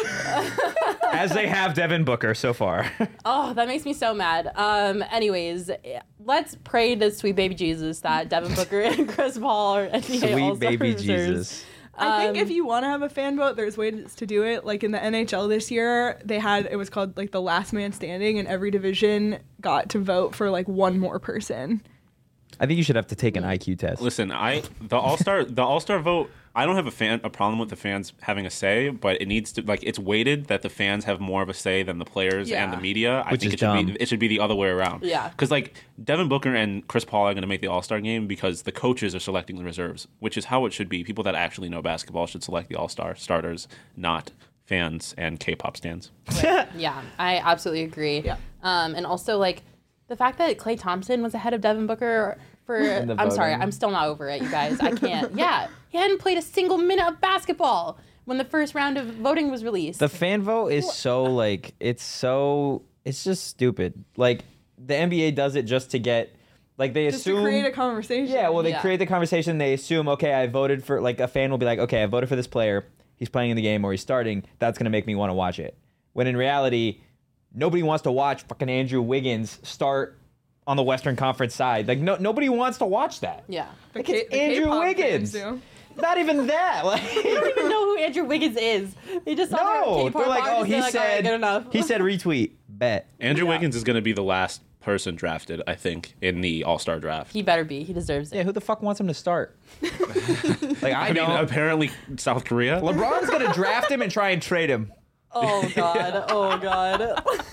D: As they have Devin Booker so far.
A: Oh, that makes me so mad. Um, anyways, let's pray to sweet baby Jesus that Devin Booker and Chris Paul are N B A
D: Sweet
A: All-Star
D: baby
A: reserves.
D: Jesus.
C: I think
A: Um,
C: if you want to have a fan vote, there's ways to do it. Like in the N H L this year, they had it was called like the last man standing, and every division got to vote for like one more person.
D: I think you should have to take an I Q test.
B: Listen, I the All Star the All Star vote. I don't have a fan a problem with the fans having a say, but it needs to like it's weighted that the fans have more of a say than the players and the
C: Yeah.
B: media. I
D: Which
B: think
D: is
B: it should
D: dumb.
B: be it should be the other way around.
A: Yeah.
B: because like Devin Booker and Chris Paul are going to make the All Star game because the coaches are selecting the reserves, which is how it should be. People that actually know basketball should select the All Star starters, not fans and K-pop stands.
A: Yeah, I absolutely agree.
C: Yeah.
A: Um, and also like the fact that Klay Thompson was ahead of Devin Booker for
D: the
A: I'm sorry,
D: voting.
A: I'm still not over it, you guys. I can't. Yeah, he hadn't played a single minute of basketball when the first round of voting was released.
D: The fan vote is so like it's so it's just stupid. Like the N B A does it just to get like they
C: Just
D: assume
C: to create a conversation.
D: Yeah, well they
A: Yeah.
D: create the conversation, they assume okay, I voted for like a fan will be like, okay, I voted for this player. He's playing in the game or he's starting. That's going to make me want to watch it. When in reality, nobody wants to watch fucking Andrew Wiggins start on the Western Conference side. Like no nobody wants to watch that.
A: yeah.
C: The
D: Like,
C: K-
D: it's
C: the
D: Andrew
C: K-pop
D: Wiggins.
C: fans do.
D: Not even that. Like
A: I don't even know who Andrew Wiggins is. They just saw
D: no,
A: their K-pop
D: they're like, oh,
A: artist,
D: he
A: they're like, all right,
D: said
A: good enough.
D: he said retweet. Bet.
B: Andrew Wiggins is going to be the last person drafted, I think, in the All Star draft.
A: He better be. He deserves it.
D: Yeah, who the fuck wants him to start? like I,
B: I mean,
D: don't.
B: apparently South Korea.
D: LeBron's gonna draft him and try and trade him.
A: Oh god. Oh god.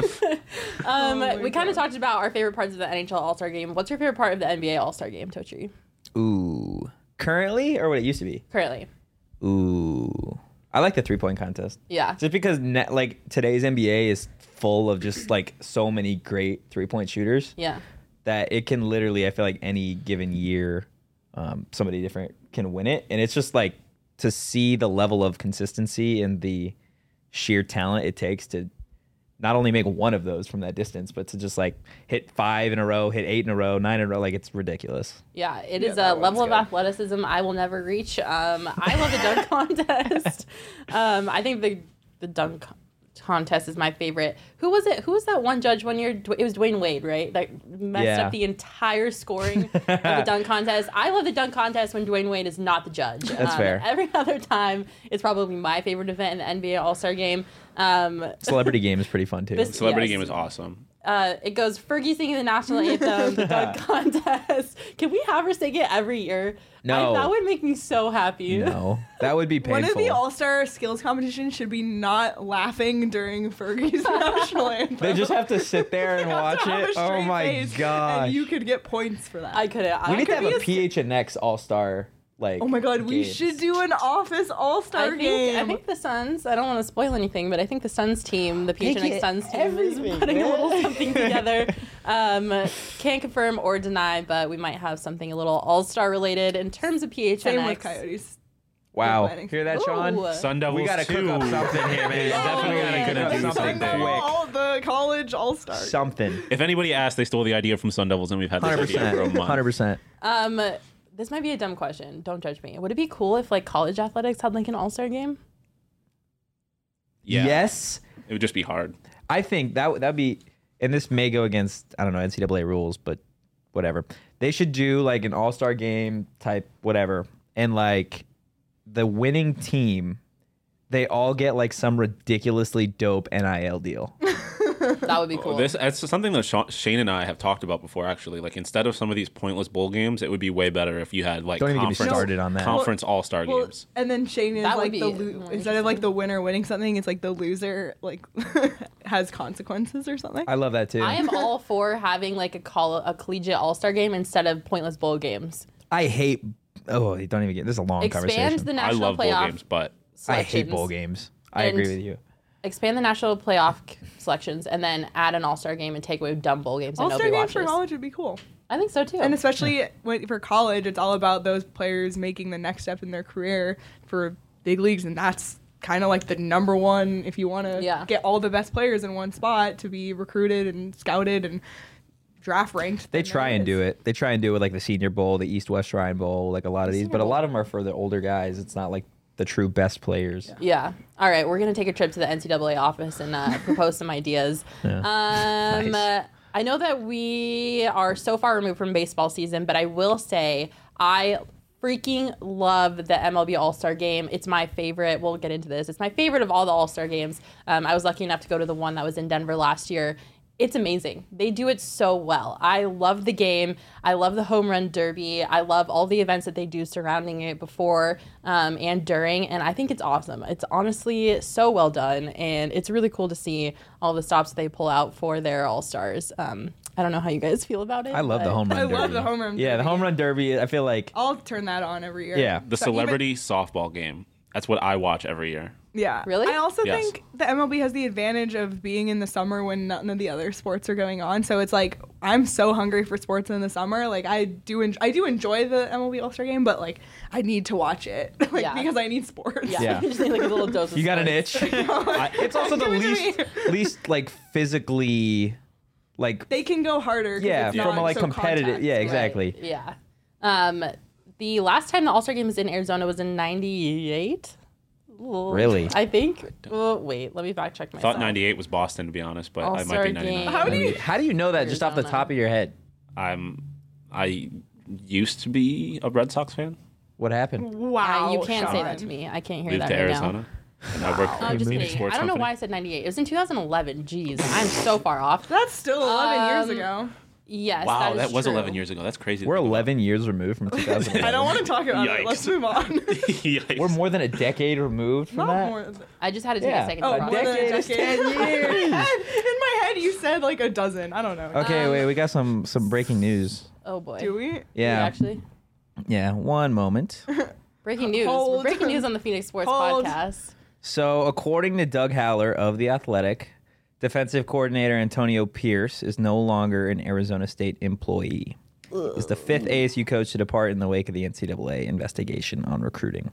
A: um,
C: my
A: we kind of
C: God.
A: talked about our favorite parts of the N H L All-Star Game. What's your favorite part of the N B A All-Star Game, Tochi?
D: Ooh, currently or what it used to be?
A: Currently.
D: Ooh, I like the three point contest.
A: Yeah.
D: Just because net, like today's N B A is full of just like so many great three point shooters
A: Yeah.
D: that it can literally, I feel like any given year, um, somebody different can win it, and it's just like to see the level of consistency and the sheer talent it takes to not only make one of those from that distance, but to just like hit five in a row, hit eight in a row, nine in a row. Like it's ridiculous.
A: Yeah, it
C: Yeah,
A: is
C: that
A: a level of
C: one's good.
A: athleticism I will never reach. Um, I love the dunk contest. Um, I think the the dunk contest is my favorite. Who was it? Who was that one judge one year? Dw- It was Dwayne Wade, right? That messed
D: Yeah.
A: up the entire scoring of the dunk contest. I love the dunk contest when Dwayne Wade is not the judge.
D: That's
A: Um,
D: fair.
A: Every other time, it's probably my favorite event in the N B A All-Star Game. Um,
D: Celebrity game is pretty fun too.
A: This-
B: Celebrity
A: Yes.
B: game is awesome.
A: uh, it goes Fergie singing the national anthem, the dunk contest. Can we have her sing it every year?
D: No.
A: I, that would make me so happy.
D: No, that would be painful.
C: One of the All Star skills competitions should be not laughing during Fergie's national anthem.
D: They just have to sit there and
C: You have
D: watch
C: to have a
D: it. Oh
C: straight
D: my
C: face,
D: gosh.
C: And you could get points for that.
A: I couldn't. I
D: We need to
A: could
D: have
A: be
D: a P H N X All Star like.
C: oh my god, we
D: games.
C: should do an Office All
A: I
C: Star
A: think,
C: game.
A: I think the Suns, I don't want to spoil anything, but I think the Suns team, the P H N X
D: Make it
A: Suns team,
D: everything,
A: is putting a
D: man.
A: little something together. Um, can't confirm or deny, but we might have something a little all-star related in terms of P H N X.
C: Same with Coyotes.
D: Wow.
C: planning.
D: Hear that,
A: Ooh.
D: Sean?
B: Sun Devils
D: We gotta
B: too.
D: cook up something here, man.
B: Definitely
D: Oh,
B: gotta
D: yeah.
B: do
D: Something
B: something
C: Sun Devil
D: quick.
C: all the college All Star.
D: Something.
B: If anybody asked, they stole the idea from Sun Devils, and we've had this
D: Hundred
B: idea for a
D: percent.
B: month.
D: Hundred percent.
A: Um, this might be a dumb question. Don't judge me. Would it be cool if like college athletics had like an all-star game?
B: Yeah,
D: Yes,
B: it would just be hard.
D: I think that would that'd be, and this may go against I don't know N C double A rules, but whatever. They should do like an All Star game type whatever, and like the winning team, they all get like some ridiculously dope N I L deal.
A: That would be cool.
B: This it's something that Sha- Shane and I have talked about before. Actually, like instead of some of these pointless bowl games, it would be way better if you had like
D: Don't even get me
B: conference,
D: started on that.
B: conference all star
C: Well,
B: games.
C: and then Shane is
A: That would
C: like
A: be
C: the
A: more
C: lo- instead of like the winner winning something, it's like the loser like has consequences or something.
D: I love that too.
A: I am all for having like a call a collegiate all-star game instead of pointless bowl games.
D: I hate. Oh, don't even get. This is a long
A: Expand
D: conversation.
A: the
B: I
A: national
B: love bowl
A: playoff
B: games, but
D: I hate
A: selections.
D: bowl games. I
A: And-
D: agree with you.
A: Expand the national playoff c- selections and then add an all-star game and take away dumb bowl games that
C: All Star
A: nobody
C: games for
A: watches.
C: college would be cool,
A: I think so too.
C: and especially when, for college, it's all about those players making the next step in their career for big leagues, and that's kind of like the number one if you want to
A: Yeah.
C: get all the best players in one spot to be recruited and scouted and draft ranked.
D: They
C: then
D: try
C: there
D: and
C: is.
D: do it. They try and do it like the Senior Bowl, the East West Shrine Bowl, like a lot of these. But a lot of them are for the older guys. It's not like the true best players.
A: Yeah. All right, we're gonna take a trip to the N C double A office and uh, propose some ideas.
D: Yeah.
A: Um,
D: Nice.
A: I know that we are so far removed from baseball season, but I will say I freaking love the M L B All-Star Game. It's my favorite. We'll get into this. It's my favorite of all the All-Star Games. Um, I was lucky enough to go to the one that was in Denver last year. It's amazing. They do it so well. I love the game. I love the home run derby. I love all the events that they do surrounding it before um, and during, and I think it's awesome. It's honestly so well done, and it's really cool to see all the stops they pull out for their All-Stars. Um, I don't know how you guys feel about it.
D: I love the
A: but-
D: home run
C: I
D: derby.
C: love the home run
D: Yeah, the
C: derby.
D: home run derby. I feel like
C: I'll turn that on every year.
D: Yeah.
B: The
C: So even-
B: celebrity softball game. That's what I watch every year.
C: Yeah.
A: Really?
C: I also
B: Yes.
C: think the M L B has the advantage of being in the summer when none of the other sports are going on. So it's like I'm so hungry for sports in the summer. Like I do, en- I do enjoy the M L B All Star Game, but like I need to watch it, like
A: Yeah.
C: because I need sports.
A: Yeah,
D: Yeah.
A: you just need like a little dose of
D: you got an
A: sports.
D: itch. I- it's also the
C: Give it to
D: least
C: me.
D: least like physically like
C: They can go harder. 'cause
D: yeah,
C: it's
D: from
C: not
D: a like
C: so
D: competitive
C: contact.
D: yeah,
A: Right,
D: exactly.
A: Yeah. Um, the last time the All Star Game was in Arizona was in ninety-eight.
D: Really?
A: I think. Oh, wait, let me fact check
B: I
A: myself.
B: thought ninety-eight was Boston, to be honest, but I might
A: All-Star
B: be ninety-nine.
A: game.
C: How do you?
D: How do you know that just off the
A: Arizona.
D: top of your head?
B: I'm. I used to be a Red Sox fan.
D: What happened?
C: Wow.
A: Uh, you can't say that
C: Sean.
A: to me. I can't hear
B: Moved
A: that
B: to
A: right
B: Arizona, and I work for
A: now. I'm
B: a
A: just
B: big
A: kidding.
B: sports
A: I don't know
B: company.
A: why I said ninety-eight. It was in two thousand eleven. Jeez, I'm so far off.
C: That's still eleven years
A: Um,
C: ago.
A: Yes,
B: Wow,
A: that,
B: that,
A: is
B: was
A: true.
B: eleven years ago. That's crazy. to
D: We're
B: think about.
D: eleven years removed from two thousand eleven.
C: I don't want to talk about it.
B: Yikes.
C: Let's move on.
B: Yikes.
D: We're more than a decade removed from
C: Not
D: that.
C: more.
A: I just had to take
D: Yeah.
A: a second.
C: Oh,
A: to
C: more
A: process.
C: than a
D: decade is
C: decade.
D: ten
C: In my
D: years.
C: head- In my head, you said like a dozen. I don't know.
D: Okay,
A: Um,
D: wait, we got some some breaking news.
A: Oh boy.
C: Do we?
A: Do we
D: Yeah,
A: Actually,
D: yeah. One moment.
A: breaking news.
C: Hold.
A: Breaking news on the Phoenix Sports
C: Hold.
A: Podcast.
D: So, according to Doug Haller of The Athletic, defensive coordinator Antonio Pierce is no longer an Arizona State employee. He's the fifth A S U coach to depart in the wake of the N C double A investigation on recruiting.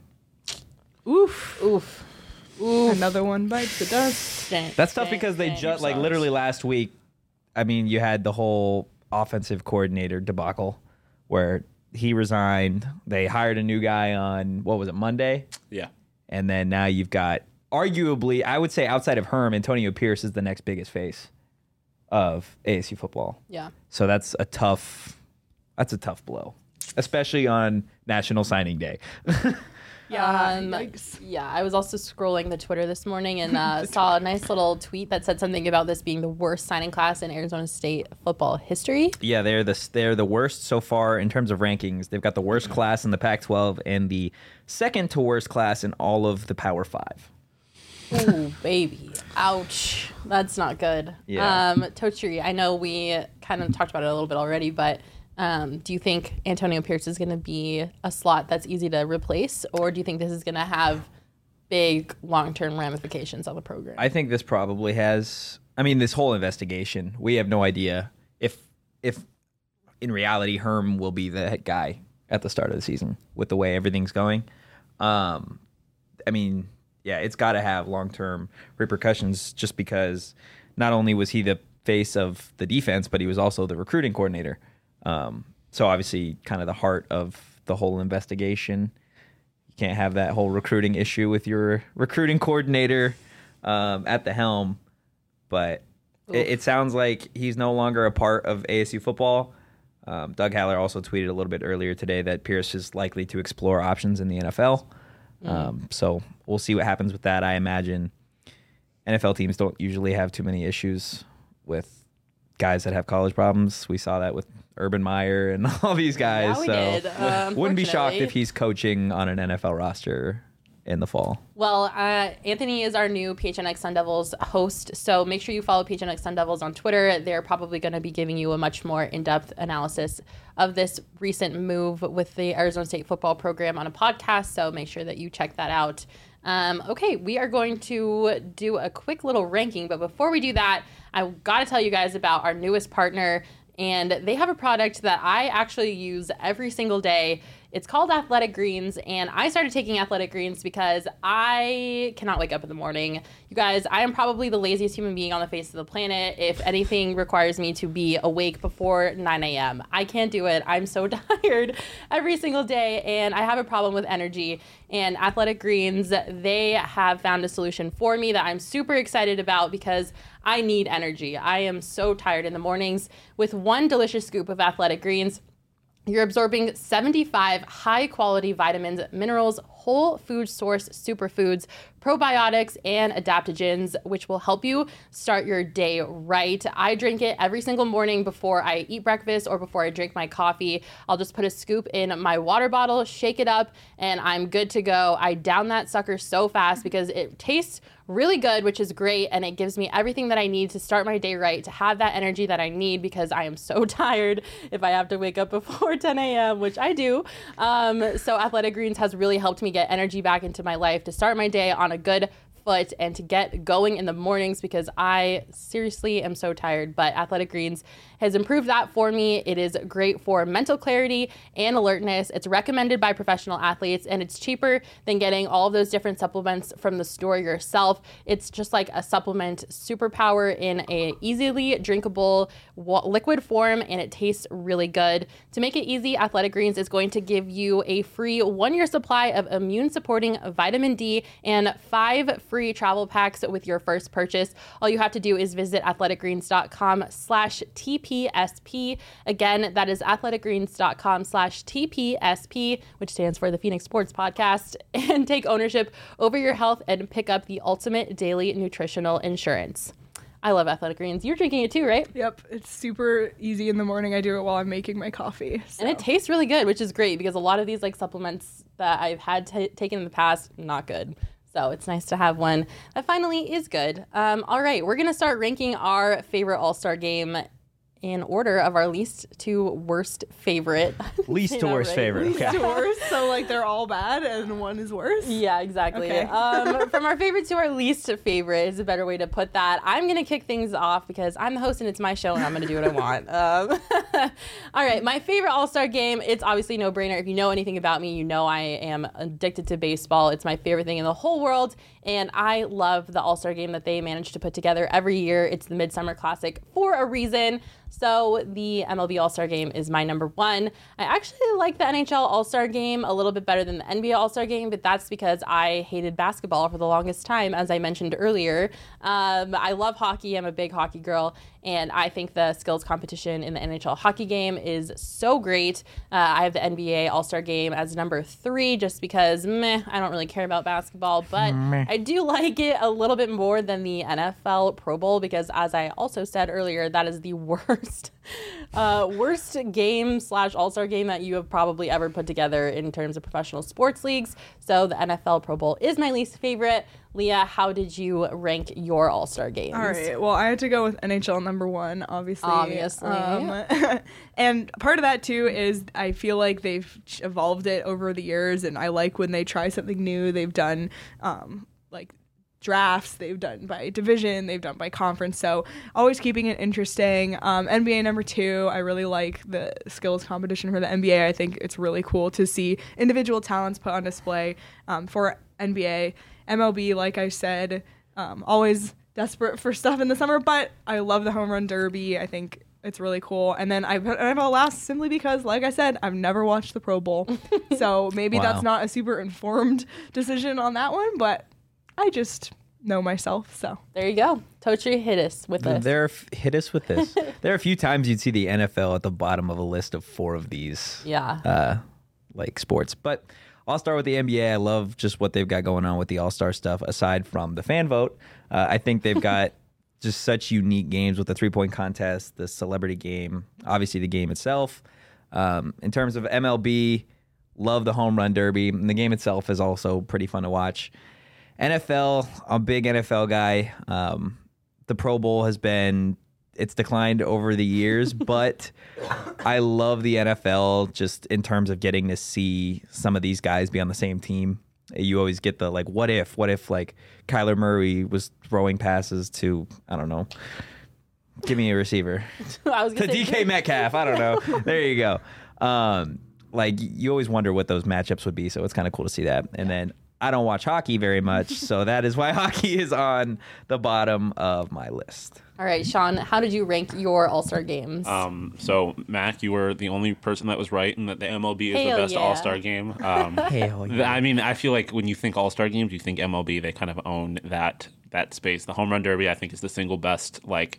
C: Oof.
A: Oof.
C: Another one bites the dust.
A: Dang,
D: That's tough
A: dang,
D: because they
A: dang.
D: just, like,
B: sucks.
D: literally last week, I mean, you had the whole offensive coordinator debacle where he resigned. They hired a new guy on, what was it, Monday?
B: Yeah.
D: And then now you've got, arguably, I would say outside of Herm, Antonio Pierce is the next biggest face of A S U football.
A: Yeah.
D: So that's a tough, that's a tough blow, especially on National Signing Day.
C: Yeah.
A: Um,
C: yikes.
A: yeah, I was also scrolling the Twitter this morning and uh, saw a nice little tweet that said something about this being the worst signing class in Arizona State football history.
D: Yeah, they're the they're the worst so far in terms of rankings. They've got the worst class in the Pac twelve and the second to worst class in all of the Power Five.
A: Ooh, baby. Ouch. That's not good.
D: Yeah.
A: Um, Tochiri, I know we kind of talked about it a little bit already, but um, do you think Antonio Pierce is going to be a slot that's easy to replace, or do you think this is going to have big long-term ramifications on the program?
D: I think this probably has. I mean, this whole investigation, we have no idea if if in reality Herm will be the head guy at the start of the season with the way everything's going. Um, I mean, yeah, it's got to have long term repercussions just because not only was he the face of the defense, but he was also the recruiting coordinator. Um, so obviously, kind of the heart of the whole investigation. You can't have that whole recruiting issue with your recruiting coordinator um, at the helm. But it, it sounds like he's no longer a part of A S U football. Um, Doug Haller also tweeted a little bit earlier today that Pierce is likely to explore options in the N F L. Um, so we'll see what happens with that. I imagine N F L teams don't usually have too many issues with guys that have college problems. We saw that with Urban Meyer and all these guys.
A: Yeah, we
D: so
A: did, uh,
D: wouldn't be shocked
A: unfortunately.
D: if he's coaching on an N F L roster in the fall.
A: Well, uh, Anthony is our new P H N X Sun Devils host, so make sure you follow P H N X Sun Devils on Twitter. They're probably going to be giving you a much more in-depth analysis of this recent move with the Arizona State football program on a podcast, so make sure that you check that out. Um, okay, we are going to do a quick little ranking, but before we do that, I've got to tell you guys about our newest partner, and they have a product that I actually use every single day. It's called Athletic Greens, and I started taking Athletic Greens because I cannot wake up in the morning. You guys, I am probably the laziest human being on the face of the planet if anything requires me to be awake before nine a.m. I can't do it. I'm so tired every single day, and I have a problem with energy. And Athletic Greens, they have found a solution for me that I'm super excited about because I need energy. I am so tired in the mornings. With one delicious scoop of Athletic Greens, you're absorbing seventy-five high-quality vitamins, minerals, whole food source superfoods, probiotics, and adaptogens, which will help you start your day right. I drink it every single morning before I eat breakfast or before I drink my coffee. I'll just put a scoop in my water bottle, shake it up, and I'm good to go. I down that sucker so fast because it tastes really good, which is great, and it gives me everything that I need to start my day right, to have that energy that I need because I am so tired if I have to wake up before ten a.m., which I do. Um, so Athletic Greens has really helped me get energy back into my life to start my day on a good foot and to get going in the mornings because I seriously am so tired. But Athletic Greens has improved that for me. It is great for mental clarity and alertness. It's recommended by professional athletes, and it's cheaper than getting all of those different supplements from the store yourself. It's just like a supplement superpower in a easily drinkable liquid form, and it tastes really good. To make it easy, Athletic Greens is going to give you a free one-year supply of immune-supporting vitamin D and five free travel packs with your first purchase. All you have to do is visit athleticgreens.com slash TPSP. Again, that is athleticgreens.com slash TPSP, which stands for the Phoenix Sports Podcast, and take ownership over your health and pick up the ultimate daily nutritional insurance. I love Athletic Greens. You're drinking it too, right?
C: Yep. It's super easy in the morning. I do it while I'm making my coffee. So.
A: And it tastes really good, which is great because a lot of these like supplements that I've had t- taken in the past, not good. So it's nice to have one that finally is good. Um, all right, we're going to start ranking our favorite All-Star game in order of our least to worst favorite.
D: Least to worst
A: right?
D: favorite.
C: Least
D: Okay.
C: to worst, so like they're all bad and one is worse?
A: Yeah, exactly.
C: Okay.
A: um, from our favorite to our least favorite is a better way to put that. I'm going to kick things off because I'm the host and it's my show and I'm going to do what I want. Um, all right, my favorite All-Star game, it's obviously no-brainer. If you know anything about me, you know I am addicted to baseball. It's my favorite thing in the whole world, and I love the All-Star game that they manage to put together every year. It's the Midsummer Classic for a reason. So the M L B All-Star Game is my number one. I actually like the N H L All-Star Game a little bit better than the N B A All-Star Game, but that's because I hated basketball for the longest time, as I mentioned earlier. Um, I love hockey. I'm a big hockey girl, and I think the skills competition in the N H L hockey game is so great. Uh, I have the N B A All-Star Game as number three just because, meh, I don't really care about basketball, but meh. I do like it a little bit more than the N F L Pro Bowl because, as I also said earlier, that is the worst uh, worst game slash All-Star game that you have probably ever put together in terms of professional sports leagues. So the N F L Pro Bowl is my least favorite. Leah, how did you rank your All-Star games?
C: All right. Well, I had to go with N H L number one, obviously.
A: Obviously.
C: Um, and part of that, too, is I feel like they've evolved it over the years, and I like when they try something new. They've done, um, like, drafts, they've done by division, they've done by conference, so always keeping it interesting. Um, N B A number two, I really like the skills competition for the N B A. I think it's really cool to see individual talents put on display um, for N B A. M L B, like I said, um, always desperate for stuff in the summer, but I love the home run derby. I think it's really cool. And then I put N F L last simply because, like I said, I've never watched the Pro Bowl, so maybe
D: Wow.
C: that's not a super informed decision on that one, but I just know myself, so.
A: There you go. Totri, hit us with this.
D: There, hit us with this. There are a few times you'd see the N F L at the bottom of a list of four of these,
A: Yeah.
D: uh, like sports. But I'll start with the N B A. I love just what they've got going on with the All-Star stuff. Aside from the fan vote, uh, I think they've got just such unique games with the three-point contest, the celebrity game, obviously the game itself. Um, in terms of M L B, love the home run derby, and the game itself is also pretty fun to watch. N F L, I'm a big N F L guy. Um, the Pro Bowl has been, it's declined over the years, but I love the N F L just in terms of getting to see some of these guys be on the same team. You always get the, like, what if, what if, like, Kyler Murray was throwing passes to, I don't know, give me a receiver.
A: I was
D: To
A: gonna say,
D: D K Metcalf, I don't know. There you go. Um, like you always wonder what those matchups would be. So it's kind of cool to see that. And then I don't watch hockey very much, so that is why hockey is on the bottom of my list.
A: All right, Sean, how did you rank your All-Star games?
B: Um, so, Mac, you were the only person that was right in that the M L B is
A: Hell
B: the best
A: yeah.
B: All-Star game. Um,
D: Hell
B: th- I mean, I feel like when you think All-Star games, you think M L B. They kind of own that that space. The Home Run Derby, I think, is the single best, like,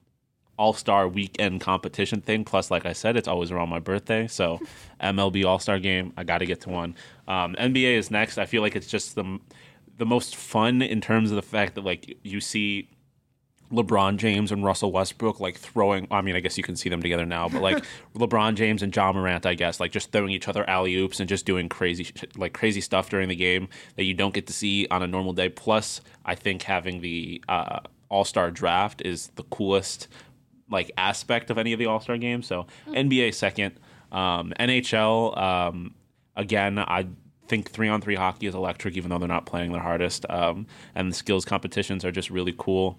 B: All-Star weekend competition thing. Plus, like I said, it's always around my birthday. So, M L B All-Star game, I got to get to one. Um, N B A is next. I feel like it's just the the most fun in terms of the fact that, like, you see LeBron James and Russell Westbrook like throwing. I mean, I guess you can see them together now, but like LeBron James and Ja Morant, I guess, like just throwing each other alley oops and just doing crazy, like crazy stuff during the game that you don't get to see on a normal day. Plus, I think having the uh, All Star draft is the coolest like aspect of any of the All Star games. So mm. N B A second, um, N H L um, again. I think three on three hockey is electric, even though they're not playing their hardest, um, and the skills competitions are just really cool.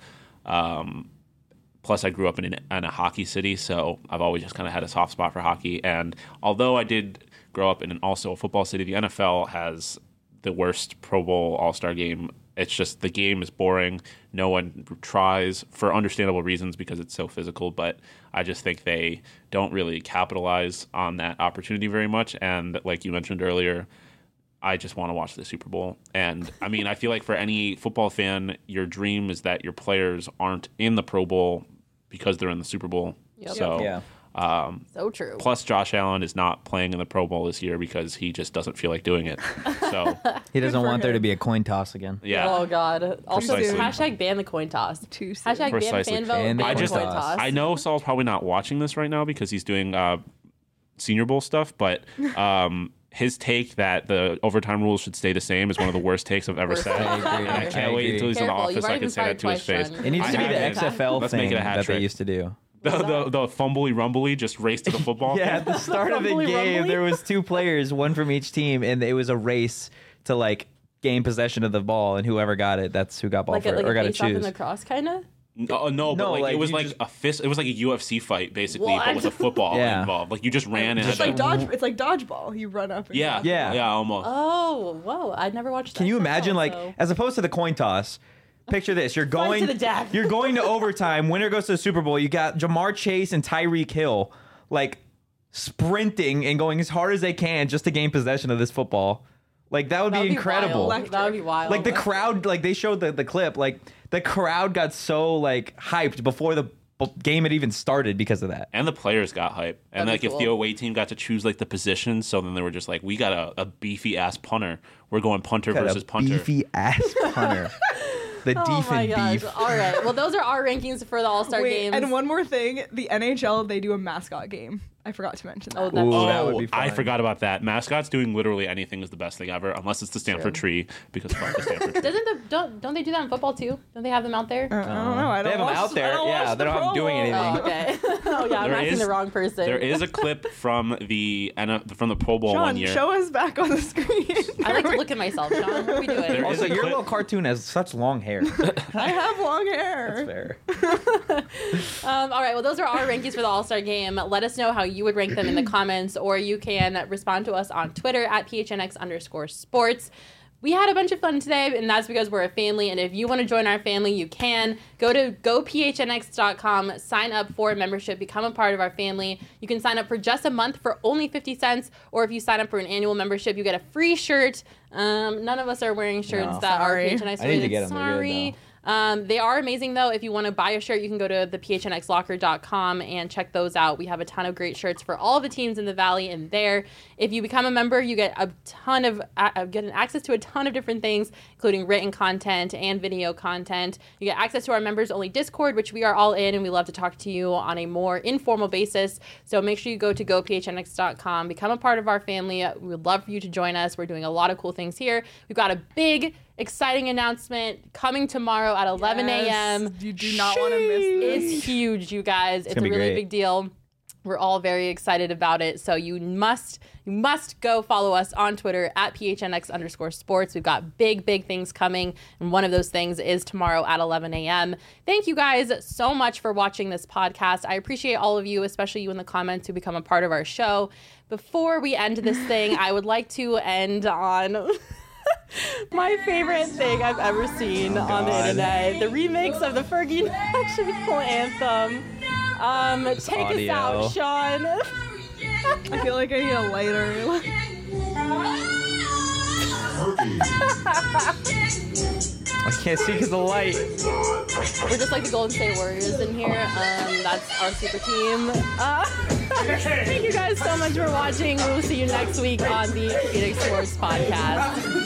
B: Um, plus, I grew up in, an, in a hockey city, so I've always just kind of had a soft spot for hockey. And although I did grow up in an, also a football city, the N F L has the worst Pro Bowl All-Star game. It's just the game is boring. No one tries for understandable reasons because it's so physical, but I just think they don't really capitalize on that opportunity very much. And like you mentioned earlier, I just want to watch the Super Bowl. And I mean, I feel like for any football fan, your dream is that your players aren't in the Pro Bowl because they're in the Super Bowl.
A: Yep.
B: So,
D: Yeah.
B: um,
A: so true.
B: plus Josh Allen is not playing in the Pro Bowl this year because he just doesn't feel like doing it. So,
D: He doesn't
A: for
D: want there
A: him.
D: to be a coin toss again.
B: yeah.
A: Oh God! Also,
B: Precisely.
A: hashtag ban the coin toss.
C: Too soon.
A: Hashtag ban
B: Precisely.
A: fan vote.
D: Ban the
A: ban
B: I just,
A: coin
D: toss.
A: toss.
B: I know Saul's probably not watching this right now because he's doing uh, Senior Bowl stuff, but um, his take that the overtime rules should stay the same is one of the worst takes I've ever
A: Worst
B: said.
A: take
D: I agree.
B: And I
D: I
B: can't wait
D: agree.
B: until he's in the
A: Careful, you've
B: office so I
A: already
B: can
A: been
B: say that to his
A: fired
B: face.
A: twice, Sean.
D: It needs
B: I
D: to be the
B: haven't.
D: X F L
B: Let's
D: thing
B: make it a hat
D: that they
B: trick.
D: used to do.
B: The, the, the fumbly rumbly just race to the football.
D: Yeah, at the start of the
A: Rumbly,
D: game,
A: rumbly.
D: there was two players, one from each team, and it was a race to like gain possession of the ball, and whoever got it, that's who got ball
A: like a,
D: for
A: like
D: it, or
A: a
D: got to
A: face off in
D: choose.
A: the cross, kind of.
B: No, no, but
D: No,
B: like,
D: like,
B: it was
D: you
B: like
D: just-
B: a fist. It was like a U F C fight basically,
A: What?
B: but with a football
D: Yeah.
B: involved. Like you just ran and
C: It's
B: had
C: like
B: to-
C: dodge. It's like dodgeball. You run up. And
B: Yeah,
C: down.
D: Yeah.
B: yeah, almost.
A: Oh, whoa! I'd never watched that.
D: Can you
A: show,
D: imagine, like,
A: so-
D: as opposed to the coin toss? Picture this: you're
A: Fight
D: going
A: to the death.
D: You're going to overtime. Winner goes to the Super Bowl. You got Jamar Chase and Tyreek Hill, like sprinting and going as hard as they can just to gain possession of this football. Like that would
A: That
D: be
A: would
D: incredible.
A: wild. That would be wild.
D: Like the crowd, like they showed the, the clip, like the crowd got so like hyped before the b- game had even started because of that.
B: And the players got hype. And
A: That'd
B: like
A: be
B: if the
A: cool.
B: away team got to choose like the positions, so then they were just like, we got a, a beefy ass punter. We're going punter
D: Got
B: versus
D: a
B: punter.
D: beefy ass punter. The
A: Oh
D: deef
A: my
D: and
A: gosh!
D: beef.
A: All right. Well, those are our rankings for the All Star
C: Wait,
A: games.
C: and one more thing: the N H L they do a mascot game. I forgot to mention that.
A: Oh, that's
D: Ooh,
B: Oh,
D: that would be fun.
B: I forgot about that. Mascots doing literally anything is the best thing ever, unless it's the Stanford tree, because fuck the Stanford tree.
A: Doesn't the don't don't they do that in football too? Don't they have them out there?
C: Uh, I don't know. I
D: They
C: don't
D: have 'em
C: watch,
D: out there.
C: I don't
D: Yeah,
C: watch
D: they're
C: the
D: not
C: Pro
D: doing
C: Bowl.
D: anything.
A: Oh, okay. oh yeah, I'm
B: There
A: asking
B: is-
A: the wrong person.
B: There is a clip from the N F from the Pro Bowl one
C: Sean,
B: year.
C: show us back on the screen.
A: I like to look at myself, Sean. What are we doing?
B: There
D: Also,
B: is a
D: your
B: clip-
D: little cartoon has such long hair.
C: I have long hair.
D: That's fair.
A: Um, all right, well, those are our rankings for the All-Star Game. Let us know how you would rank them in the comments, or you can respond to us on Twitter at P H N X underscore sports. We had a bunch of fun today, and that's because we're a family, and if you want to join our family, you can. Go to go P H N X dot com, sign up for a membership, become a part of our family. You can sign up for just a month for only fifty cents, or if you sign up for an annual membership, you get a free shirt. Um, none of us are wearing shirts
D: No.
A: that
C: Sorry.
A: are P H N X
D: I need to
A: related.
D: get 'em. They're good,
A: Sorry.
D: though.
A: Um, they are amazing, though. If you want to buy a shirt, you can go to the P H N X locker dot com and check those out. We have a ton of great shirts for all of the teams in the Valley in there. If you become a member, you get a ton of uh, get an access to a ton of different things, including written content and video content. You get access to our members-only Discord, which we are all in, and we love to talk to you on a more informal basis. So make sure you go to go P H N X dot com, become a part of our family. We would love for you to join us. We're doing a lot of cool things here. We've got a big, exciting announcement coming tomorrow at eleven a.m.
C: Yes, you do not want to miss this.
A: It's huge, you guys. It's,
D: gonna
A: a
D: be
A: really
D: great.
A: big deal. We're all very excited about it. So you must you must go follow us on Twitter at P H N X underscore sports. We've got big, big things coming. And one of those things is tomorrow at eleven a.m. Thank you guys so much for watching this podcast. I appreciate all of you, especially you in the comments who become a part of our show. Before we end this thing, I would like to end on my favorite thing I've ever seen
D: oh,
A: on the internet. The remix of the Fergie National Anthem. Um, take
D: audio.
A: us out, Sean.
C: I feel like I need a lighter.
D: I can't see because of the light.
A: We're just like the Golden State Warriors in here. Um, that's our super team. Uh, thank you guys so much for watching. We will see you next week on the Phoenix Sports Podcast.